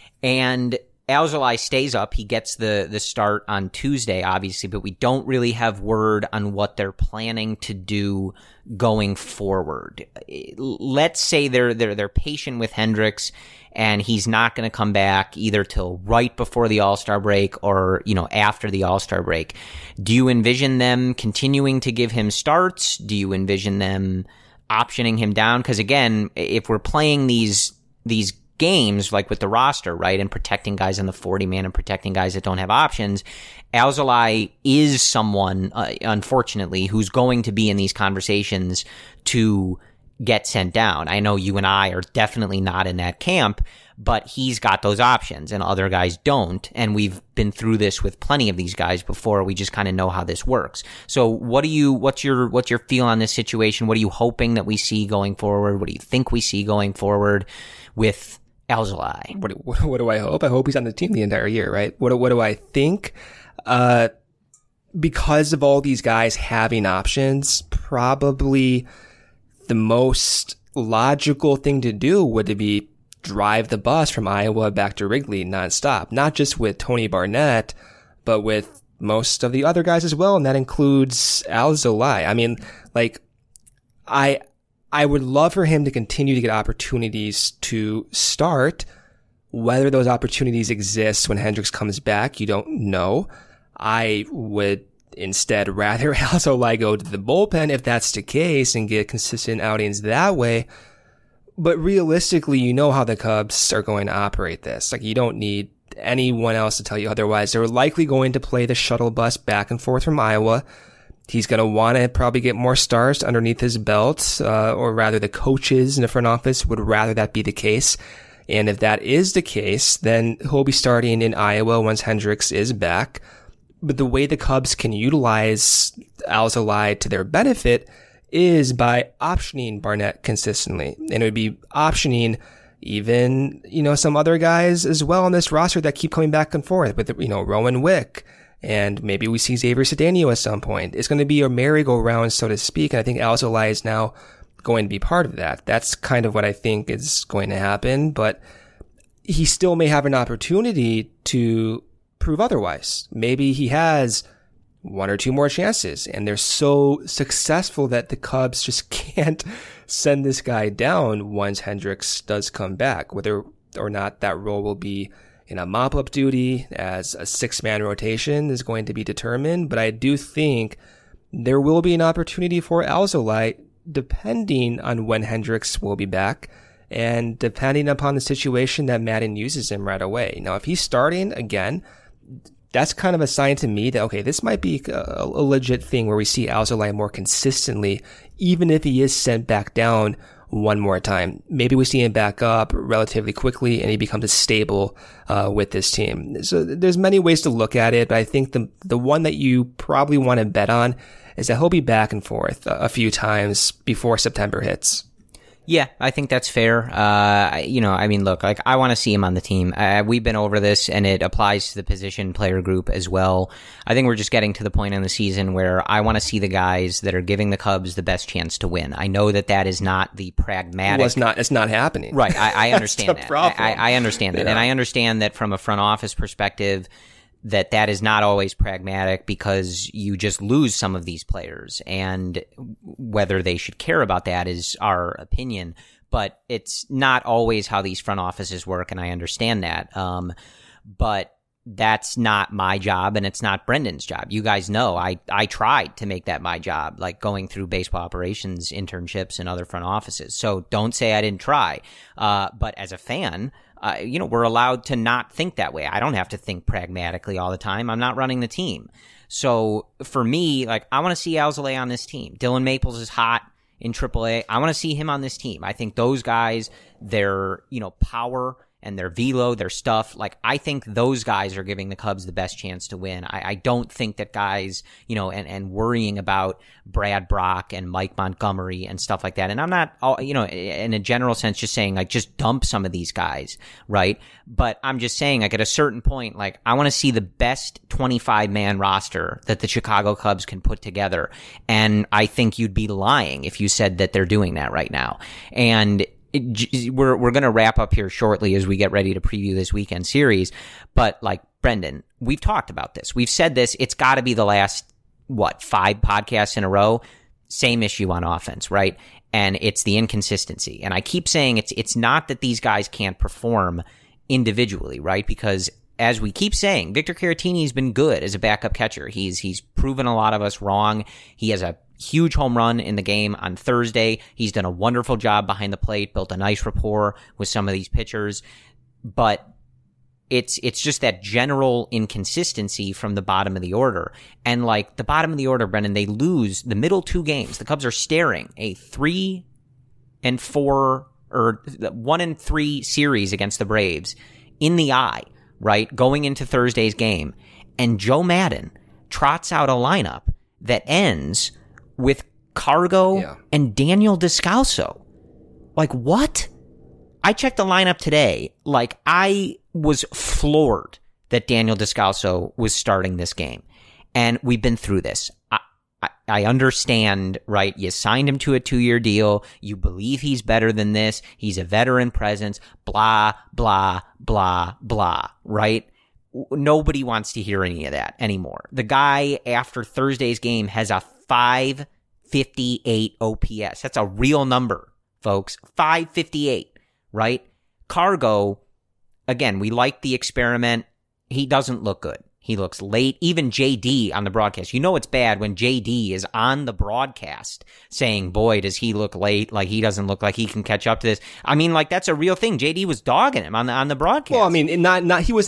And Alzolay stays up. He gets the, the start on Tuesday, obviously, but we don't really have word on what they're planning to do going forward. Let's say they're, they're, they're patient with Hendricks and he's not going to come back either till right before the All-Star break or, you know, after the All-Star break. Do you envision them continuing to give him starts? Do you envision them optioning him down? Because again, if we're playing these, these games like with the roster, right, and protecting guys on the forty man and protecting guys that don't have options, Alzolay is someone, uh, unfortunately, who's going to be in these conversations to get sent down. I know you and I are definitely not in that camp, but he's got those options and other guys don't. And we've been through this with plenty of these guys before. We just kind of know how this works. So what do you, what's your, what's your feel on this situation? What are you hoping that we see going forward? What do you think we see going forward with Alzolay? What, what, what do I hope? I hope he's on the team the entire year, right? What, what do I think? Uh, because of all these guys having options, probably the most logical thing to do would be drive the bus from Iowa back to Wrigley nonstop, not just with Tony Barnett, but with most of the other guys as well. And that includes Alzolay. I mean, like, I, I would love for him to continue to get opportunities to start. Whether those opportunities exist when Hendricks comes back, you don't know. I would instead rather Alzolay go to the bullpen if that's the case and get consistent outings that way. But realistically, you know how the Cubs are going to operate this. Like, you don't need anyone else to tell you otherwise. They're likely going to play the shuttle bus back and forth from Iowa. He's going to want to probably get more stars underneath his belt, uh, or rather the coaches in the front office would rather that be the case. And if that is the case, then he'll be starting in Iowa once Hendricks is back. But the way the Cubs can utilize Alzolay to their benefit is by optioning Barnett consistently. And it would be optioning even, you know, some other guys as well on this roster that keep coming back and forth with, you know, Rowan Wick. And maybe we see Xavier Cedeno at some point. It's going to be a merry-go-round, so to speak. And I think Alzolay is now going to be part of that. That's kind of what I think is going to happen. But he still may have an opportunity to prove otherwise. Maybe he has one or two more chances, and they're so successful that the Cubs just can't send this guy down once Hendricks does come back. Whether or not that role will be in a mop-up duty as a six-man rotation is going to be determined, but I do think there will be an opportunity for Alzolay depending on when Hendricks will be back and depending upon the situation that Maddon uses him right away. Now, if he's starting again, that's kind of a sign to me that, okay, this might be a, a legit thing where we see Alzolay more consistently, even if he is sent back down one more time. Maybe we see him back up relatively quickly and he becomes stable uh, with this team. So there's many ways to look at it, but I think the the one that you probably want to bet on is that he'll be back and forth a, a few times before September hits. Yeah, I think that's fair. Uh, you know, I mean, look, like I want to see him on the team. Uh, we've been over this, and it applies to the position player group as well. I think we're just getting to the point in the season where I want to see the guys that are giving the Cubs the best chance to win. I know that that is not the pragmatic. Well, it's not. It's not happening. Right. I, I understand that. Problem. I, I understand that, yeah. And I understand that from a front office perspective, that that is not always pragmatic because you just lose some of these players, and whether they should care about that is our opinion, but it's not always how these front offices work, and I understand that. Um, but that's not my job, and it's not Brendan's job. You guys know I, I tried to make that my job, like going through baseball operations internships and other front offices. So don't say I didn't try. Uh, but as a fan, Uh, you know, we're allowed to not think that way. I don't have to think pragmatically all the time. I'm not running the team. So for me, like, I want to see Alzolay on this team. Dylan Maples is hot in triple A. I want to see him on this team. I think those guys, their, you know, power and their velo, their stuff, like, I think those guys are giving the Cubs the best chance to win. I, I don't think that guys, you know, and, and worrying about Brad Brock and Mike Montgomery and stuff like that. And I'm not, you know, in a general sense, just saying, like, just dump some of these guys, right? But I'm just saying, like, at a certain point, like, I want to see the best twenty-five man roster that the Chicago Cubs can put together. And I think you'd be lying if you said that they're doing that right now. And It, we're we're going to wrap up here shortly as we get ready to preview this weekend series. But like Brendan, we've talked about this. We've said this. It's got to be the last, what, five podcasts in a row. Same issue on offense, right? And it's the inconsistency. And I keep saying it's it's not that these guys can't perform individually, right? Because as we keep saying, Victor Caratini's been good as a backup catcher. He's he's proven a lot of us wrong. He has a huge home run in the game on Thursday. He's done a wonderful job behind the plate, built a nice rapport with some of these pitchers. But it's it's just that general inconsistency from the bottom of the order. And like the bottom of the order, Brendan, they lose the middle two games. The Cubs are staring a three and four or one and three series against the Braves in the eye, right? Going into Thursday's game. And Joe Maddon trots out a lineup that ends with Cargo yeah. and Daniel Descalso. Like, what? I checked the lineup today. Like, I was floored that Daniel Descalso was starting this game. And we've been through this. I, I, I understand, right? You signed him to a two-year deal. You believe he's better than this. He's a veteran presence. Blah, blah, blah, blah, right? Nobody wants to hear any of that anymore. The guy, after Thursday's game, has a five fifty-eight O P S. That's a real number, folks. five fifty-eight, right? Cargo, again, we like the experiment. He doesn't look good. He looks late. Even J D on the broadcast. You know it's bad when J D is on the broadcast saying, boy, does he look late. Like, he doesn't look like he can catch up to this. I mean, like, that's a real thing. J D was dogging him on the on the broadcast. Well, I mean, not not he wasn't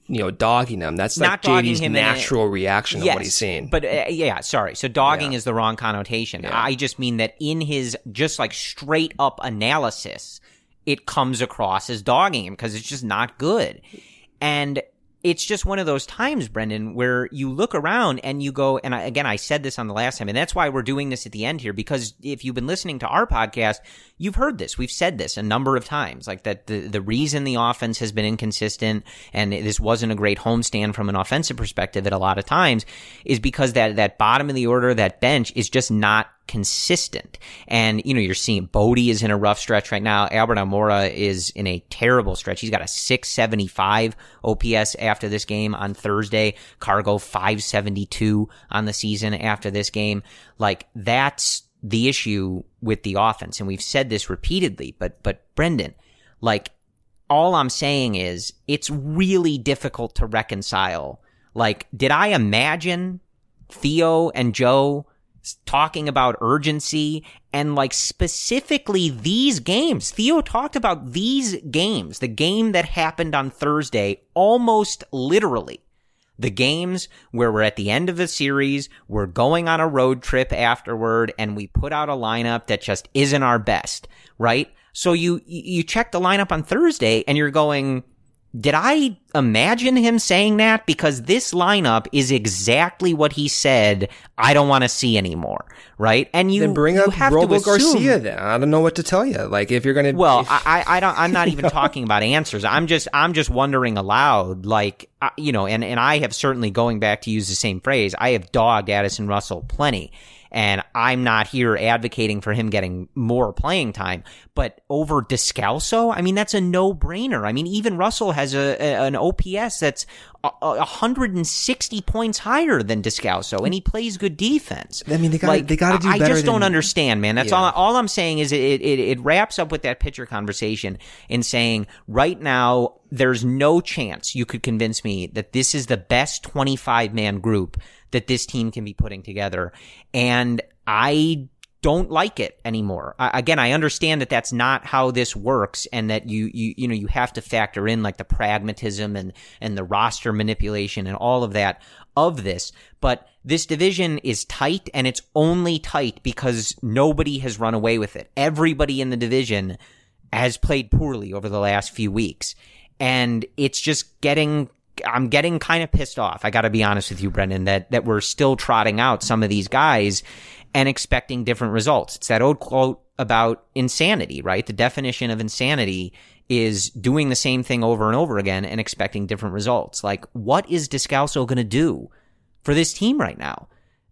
you know, dogging him. That's like J D's natural reaction yes, of what he's seeing. But uh, yeah, sorry. So dogging yeah. is the wrong connotation. Yeah. I just mean that in his just like straight up analysis, it comes across as dogging him because it's just not good. And it's just one of those times, Brendan, where you look around and you go, and I, again, I said this on the last time, and that's why we're doing this at the end here, because if you've been listening to our podcast, you've heard this. We've said this a number of times, like that the, the reason the offense has been inconsistent and this wasn't a great homestand from an offensive perspective at a lot of times is because that, that bottom of the order, that bench is just not consistent. And, you know, you're seeing Bodie is in a rough stretch right now. Albert Almora is in a terrible stretch. He's got a six seventy-five O P S after this game on Thursday. Cargo five seventy-two on the season after this game. Like, that's the issue with the offense. And we've said this repeatedly, but, but Brendan, like, all I'm saying is it's really difficult to reconcile. Like, did I imagine Theo and Joe talking about urgency and like specifically these games? Theo talked about these games, the game that happened on Thursday, almost literally. The games where we're at the end of the series, we're going on a road trip afterward, and we put out a lineup that just isn't our best, right? So you you check the lineup on Thursday and you're going, did I imagine him saying that? Because this lineup is exactly what he said I don't want to see anymore, right? And you then bring you up have Robo to assume, Garcia. Then I don't know what to tell you. Like if you're gonna, well, if, I I don't. I'm not even talking about answers. I'm just I'm just wondering aloud, like you know, and and I have certainly, going back to use the same phrase, I have dogged Addison Russell plenty. And I'm not here advocating for him getting more playing time, but over Descalso, I mean, that's a no-brainer. I mean, even Russell has a, a an O P S that's a, a one hundred sixty points higher than Descalso, and he plays good defense. I mean, they got like, they got to do I better. I just than, don't understand, man. That's yeah. all. All I'm saying is it, it it wraps up with that pitcher conversation in saying right now there's no chance you could convince me that this is the best twenty-five man group that this team can be putting together. And I don't like it anymore. I, again, I understand that that's not how this works, and that you, you, you know, you have to factor in like the pragmatism and, and the roster manipulation and all of that of this. But this division is tight, and it's only tight because nobody has run away with it. Everybody in the division has played poorly over the last few weeks, and it's just getting I'm getting kind of pissed off. I got to be honest with you, Brendan, that, that we're still trotting out some of these guys and expecting different results. It's that old quote about insanity, right? The definition of insanity is doing the same thing over and over again and expecting different results. Like, what is Descalso going to do for this team right now?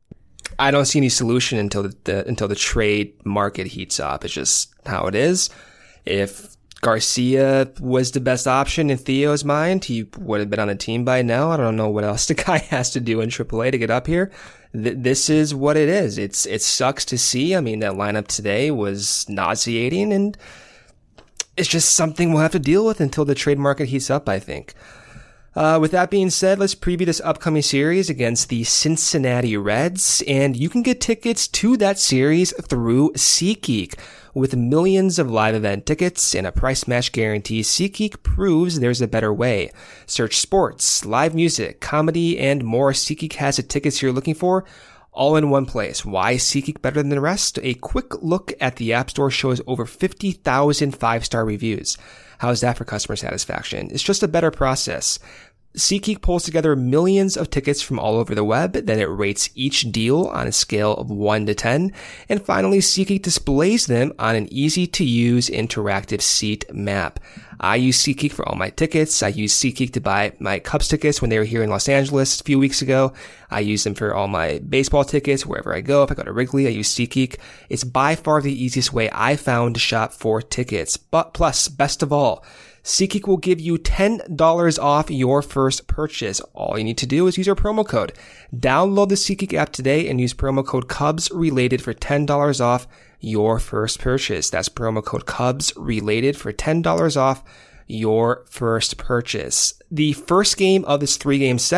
I don't see any solution until the, the until the trade market heats up. It's just how it is. If Garcia was the best option in Theo's mind, he would have been on a team by now. I don't know what else the guy has to do in triple A to get up here. Th- this is what it is. It's it sucks to see. I mean, that lineup today was nauseating, and it's just something we'll have to deal with until the trade market heats up, I think. Uh, with that being said, let's preview this upcoming series against the Cincinnati Reds, and you can get tickets to that series through SeatGeek. With millions of live event tickets and a price match guarantee, SeatGeek proves there's a better way. Search sports, live music, comedy, and more. SeatGeek has the tickets you're looking for, all in one place. Why is SeatGeek better than the rest? A quick look at the App Store shows over fifty thousand five-star reviews. How's that for customer satisfaction? It's just a better process. SeatGeek pulls together millions of tickets from all over the web, then it rates each deal on a scale of one to ten, and finally SeatGeek displays them on an easy-to-use interactive seat map. I use SeatGeek for all my tickets. I use SeatGeek to buy my Cubs tickets when they were here in Los Angeles a few weeks ago. I use them for all my baseball tickets wherever I go. If I go to Wrigley, I use SeatGeek. It's by far the easiest way I found to shop for tickets. But plus, best of all, SeatGeek will give you ten dollars off your first purchase. All you need to do is use our promo code. Download the SeatGeek app today and use promo code CubsRelated for ten dollars off your first purchase. That's promo code CubsRelated for ten dollars off your first purchase. The first game of this three-game set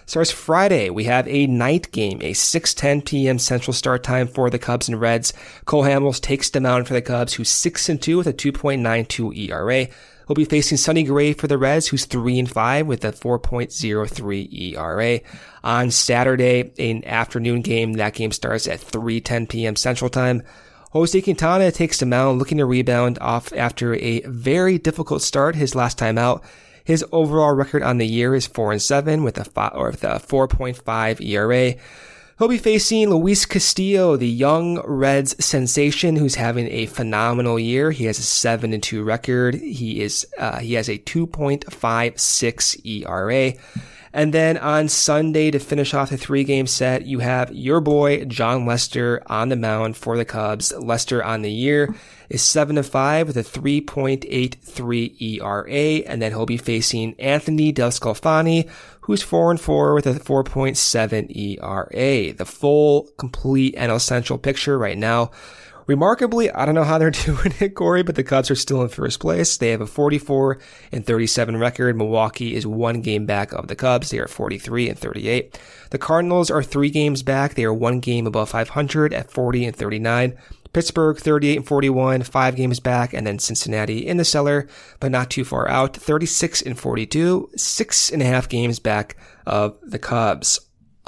starts Friday. We have a night game, a six ten p.m. Central start time for the Cubs and Reds. Cole Hamels takes the mound for the Cubs, who's six and two with a two point nine two E R A. He'll be facing Sonny Gray for the Reds, who's three and five with a four point oh three E R A. On Saturday, an afternoon game. That game starts at three ten p.m. Central time. Jose Quintana takes the mound, looking to rebound off after a very difficult start his last time out. His overall record on the year is four and seven with a five, or with a four point five E R A. He'll be facing Luis Castillo, the young Reds sensation, who's having a phenomenal year. He has a seven and two record. He is uh, he has a two point five six E R A. And then on Sunday, to finish off the three-game set, you have your boy Jon Lester on the mound for the Cubs. Lester on the year is seven and five with a three point eight three E R A, and then he'll be facing Anthony DeSclafani, who's four and four with a four point seven E R A. The full, complete N L Central picture right now. Remarkably, I don't know how they're doing it, Corey, but the Cubs are still in first place. They have a forty-four and thirty-seven record. Milwaukee is one game back of the Cubs. They are forty-three and thirty-eight. The Cardinals are three games back. They are one game above five hundred at forty and thirty-nine. Pittsburgh, thirty-eight and forty-one, five games back, and then Cincinnati in the cellar, but not too far out, thirty-six and forty-two, six and a half games back of the Cubs.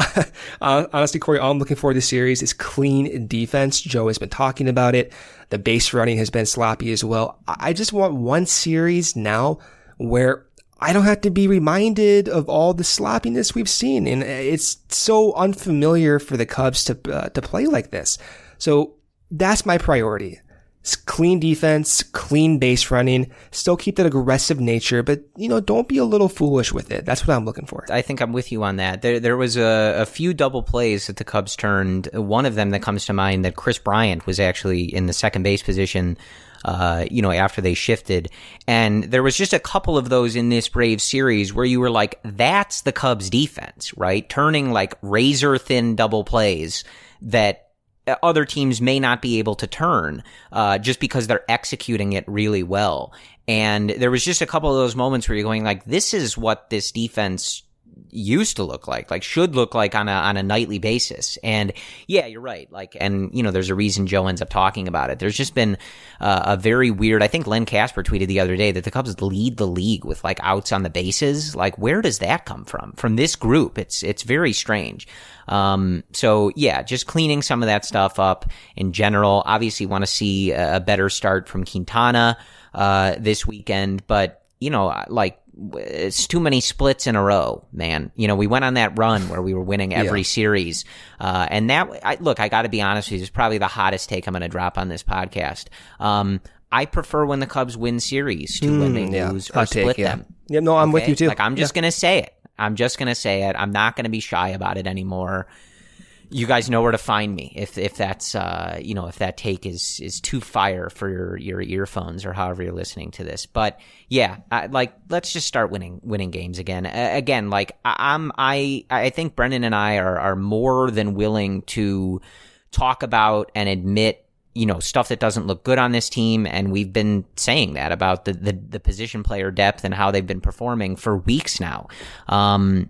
Honestly, Corey, all I'm looking for this series is clean defense. Joe has been talking about it. The base running has been sloppy as well. I just want one series now where I don't have to be reminded of all the sloppiness we've seen. And it's so unfamiliar for the Cubs to, uh, to play like this. So that's my priority. It's clean defense, clean base running, still keep that aggressive nature, but, you know, don't be a little foolish with it. That's what I'm looking for. I think I'm with you on that. There there was a, a few double plays that the Cubs turned. One of them that comes to mind, that Chris Bryant was actually in the second base position, uh, you know, after they shifted. And there was just a couple of those in this Braves series where you were like, that's the Cubs defense, right? Turning like razor thin double plays that other teams may not be able to turn, uh, just because they're executing it really well. And there was just a couple of those moments where you're going like, this is what this defense used to look like, like should look like on a, on a nightly basis. And yeah, you're right. Like, and you know, there's a reason Joe ends up talking about it. There's just been uh, a very weird, I think Len Casper tweeted the other day that the Cubs lead the league with like outs on the bases. Like, where does that come from? From this group? It's, it's very strange. Um, so yeah, just cleaning some of that stuff up in general. Obviously want to see a better start from Quintana, uh, this weekend, but you know, like, it's too many splits in a row, man. You know, we went on that run where we were winning every yeah. series. Uh, and that, I, look, I got to be honest with you, it's probably the hottest take I'm going to drop on this podcast. Um, I prefer when the Cubs win series to mm, when they yeah. lose or Hot split take, yeah. them. Yeah, no, I'm okay? with you too. Like, I'm just yeah. going to say it. I'm just going to say it. I'm not going to be shy about it anymore. You guys know where to find me if if that's uh you know if that take is is too fire for your your earphones or however you're listening to this. But yeah, I, like let's just start winning winning games again. Uh, again, like I, I'm I I think Brendan and I are are more than willing to talk about and admit, you know, stuff that doesn't look good on this team, and we've been saying that about the the, the position player depth and how they've been performing for weeks now. Um,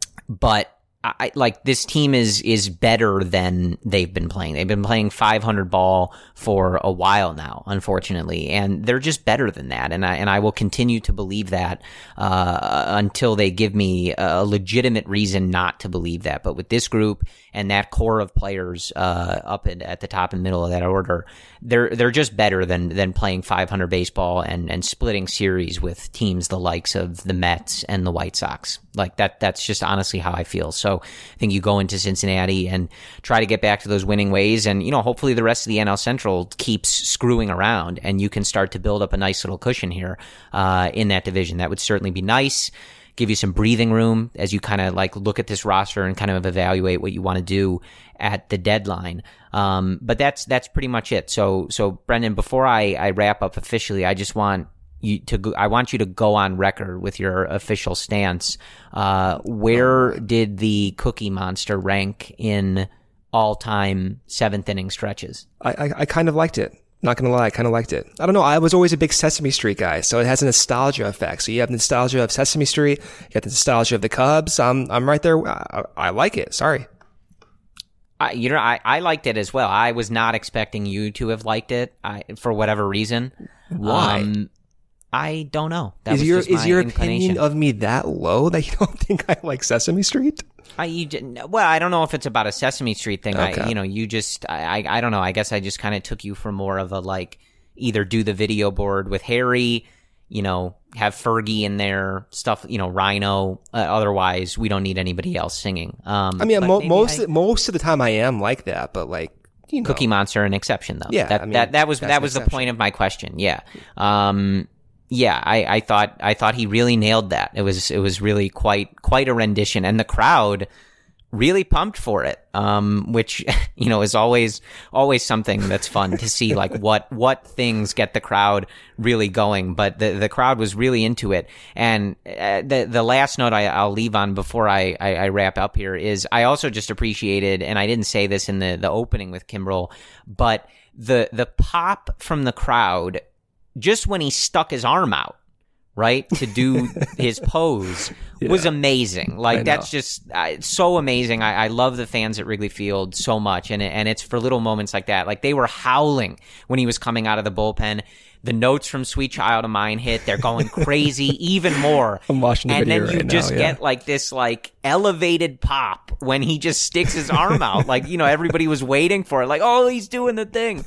but. I like this team is is better than they've been playing. They've been playing five hundred ball for a while now, unfortunately, and they're just better than that. And I and I will continue to believe that uh, until they give me a legitimate reason not to believe that. But with this group and that core of players uh, up at, at the top and middle of that order, they're they're just better than than playing five hundred baseball and and splitting series with teams the likes of the Mets and the White Sox. Like that that's just honestly how I feel. So I think you go into Cincinnati and try to get back to those winning ways, and you know, hopefully the rest of the N L Central keeps screwing around and you can start to build up a nice little cushion here uh in that division. That would certainly be nice. Give you some breathing room as you kind of like look at this roster and kind of evaluate what you want to do at the deadline. Um, but that's that's pretty much it. So so Brendan, before I, I wrap up officially, I just want you to go, I want you to go on record with your official stance. Uh, where did the Cookie Monster rank in all-time seventh inning stretches? I, I I kind of liked it. Not gonna lie, I kind of liked it. I don't know. I was always a big Sesame Street guy, so it has a nostalgia effect. So you have the nostalgia of Sesame Street, you have the nostalgia of the Cubs. I'm I'm right there. I, I like it. Sorry. I, you know, I, I liked it as well. I was not expecting you to have liked it I, for whatever reason. Why? Um, I don't know. That is was your just is my your inclination. opinion of me that low that you don't think I like Sesame Street? I you didn't, well, I don't know if it's about a Sesame Street thing. Okay. I you know you just I I, I don't know. I guess I just kind of took you for more of a like either do the video board with Harry, you know, have Fergie in there, stuff, you know, Rhino. Uh, otherwise, we don't need anybody else singing. Um, I mean, mo- most I, most of the time I am like that, but like you know. Cookie Monster an exception though. Yeah, that I mean, that, that was that's that was the point of my question. Yeah. Um. Yeah, I, I thought I thought he really nailed that. It was it was really quite quite a rendition, and the crowd really pumped for it. Um, which you know is always always something that's fun to see. Like what what things get the crowd really going. But the the crowd was really into it. And uh, the the last note I, I'll leave on before I, I I wrap up here is I also just appreciated, and I didn't say this in the the opening with Kimbrel, but the the pop from the crowd. Just when he stuck his arm out, right, to do his pose yeah. was amazing. Like, that's just uh, it's so amazing. I, I love the fans at Wrigley Field so much, and, and it's for little moments like that. Like, they were howling when he was coming out of the bullpen. The notes from Sweet Child of Mine hit. They're going crazy even more. I'm watching the and video then you right just now, yeah. get like this like elevated pop when he just sticks his arm out. Like, you know, everybody was waiting for it. Like, oh, he's doing the thing.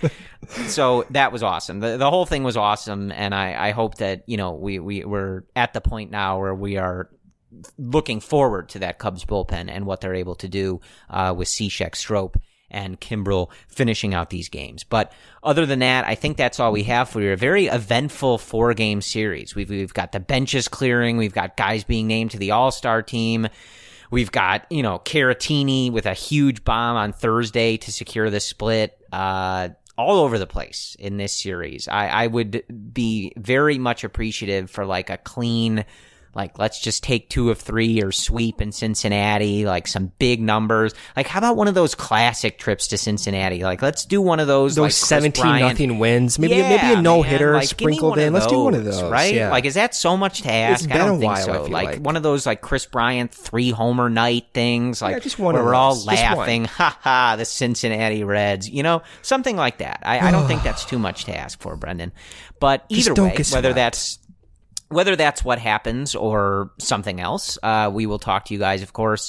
So that was awesome. The the whole thing was awesome. And I, I hope that, you know, we, we, we're at the point now where we are looking forward to that Cubs bullpen and what they're able to do uh, with Cishek, Strop, and Kimbrel finishing out these games. But other than that, I think that's all we have for you. A very eventful four-game series. We've we've got the benches clearing. We've got guys being named to the All-Star team. We've got, you know, Caratini with a huge bomb on Thursday to secure the split. Uh, all over the place in this series. I, I would be very much appreciative for like a clean, like, let's just take two of three or sweep in Cincinnati, like some big numbers. Like, how about one of those classic trips to Cincinnati? Like, let's do one of those. Those like seventeen nothing wins. Maybe yeah, maybe a no man. hitter like, sprinkled in. Let's do one of those, right? Yeah. Like, is that so much to ask? It's I been don't a think while, so. I feel Like, like. one of those like Chris Bryant three homer night things. Like, Yeah, just one where of we're all those. Just laughing, one. ha ha, the Cincinnati Reds. You know, something like that. I, I don't think that's too much to ask for, Brendan. But Just either don't way, get whether swept. that's Whether that's what happens or something else, uh, we will talk to you guys, of course,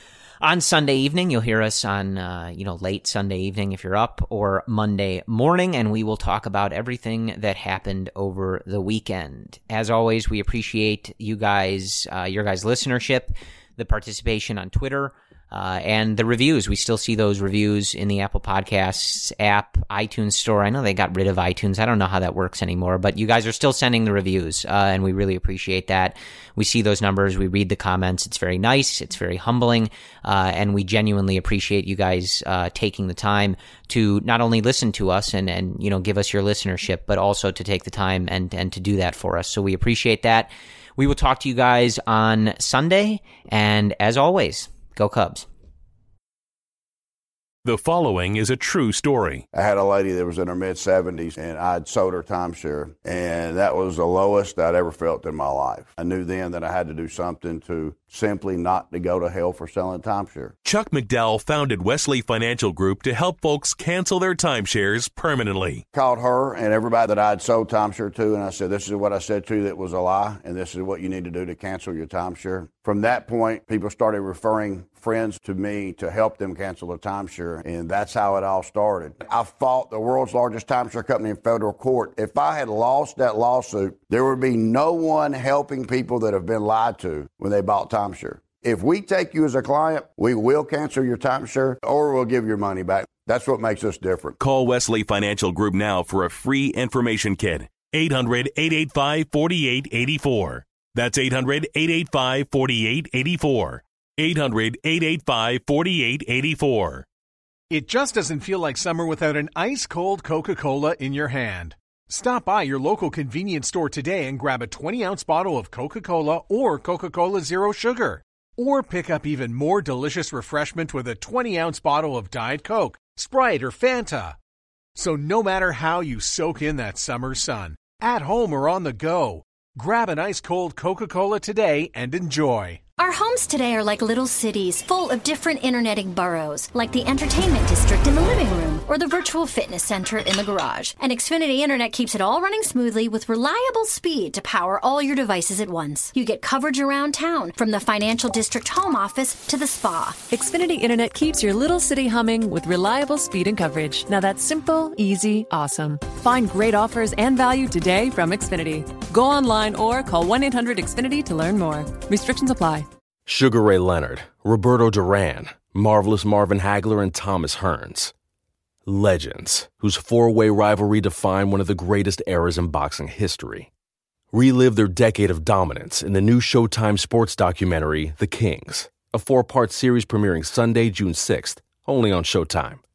on Sunday evening. You'll hear us on, uh, you know, late Sunday evening if you're up, or Monday morning, and we will talk about everything that happened over the weekend. As always, we appreciate you guys, uh, your guys' listenership, the participation on Twitter, Uh, and the reviews. We still see those reviews in the Apple Podcasts app, iTunes Store. I know they got rid of iTunes. I don't know how that works anymore, but you guys are still sending the reviews, uh, and we really appreciate that. We see those numbers. We read the comments. It's very nice. It's very humbling, uh, and we genuinely appreciate you guys uh, taking the time to not only listen to us and, and you know give us your listenership, but also to take the time and, and to do that for us. So we appreciate that. We will talk to you guys on Sunday, and as always, go Cubs. The following is a true story. I had a lady that was in her mid-seventies, and I'd sold her timeshare, and that was the lowest I'd ever felt in my life. I knew then that I had to do something to simply not to go to hell for selling timeshare. Chuck McDowell founded Wesley Financial Group to help folks cancel their timeshares permanently. Called her and everybody that I'd sold timeshare to, and I said, this is what I said to you that was a lie, and this is what you need to do to cancel your timeshare. From that point, people started referring friends to me to help them cancel their timeshare, and that's how it all started. I fought the world's largest timeshare company in federal court. If I had lost that lawsuit, there would be no one helping people that have been lied to when they bought timeshare. If we take you as a client, we will cancel your timeshare or we'll give your money back. That's what makes us different. Call Wesley Financial Group now for a free information kit. eight hundred, eight eight five, four eight eight four. That's eight hundred, eight eight five, four eight eight four. eight hundred, eight eight five, four eight eight four. It just doesn't feel like summer without an ice-cold Coca-Cola in your hand. Stop by your local convenience store today and grab a twenty-ounce bottle of Coca-Cola or Coca-Cola Zero Sugar. Or pick up even more delicious refreshment with a twenty-ounce bottle of Diet Coke, Sprite, or Fanta. So no matter how you soak in that summer sun, at home or on the go, grab an ice-cold Coca-Cola today and enjoy. Our homes today are like little cities full of different interneting boroughs, like the entertainment district in the living room or the virtual fitness center in the garage. And Xfinity Internet keeps it all running smoothly with reliable speed to power all your devices at once. You get coverage around town, from the financial district home office to the spa. Xfinity Internet keeps your little city humming with reliable speed and coverage. Now that's simple, easy, awesome. Find great offers and value today from Xfinity. Go online or call one eight hundred X Finity to learn more. Restrictions apply. Sugar Ray Leonard, Roberto Duran, Marvelous Marvin Hagler, and Thomas Hearns. Legends, whose four-way rivalry defined one of the greatest eras in boxing history. Relive their decade of dominance in the new Showtime sports documentary, The Kings, a four-part series premiering Sunday, June sixth, only on Showtime.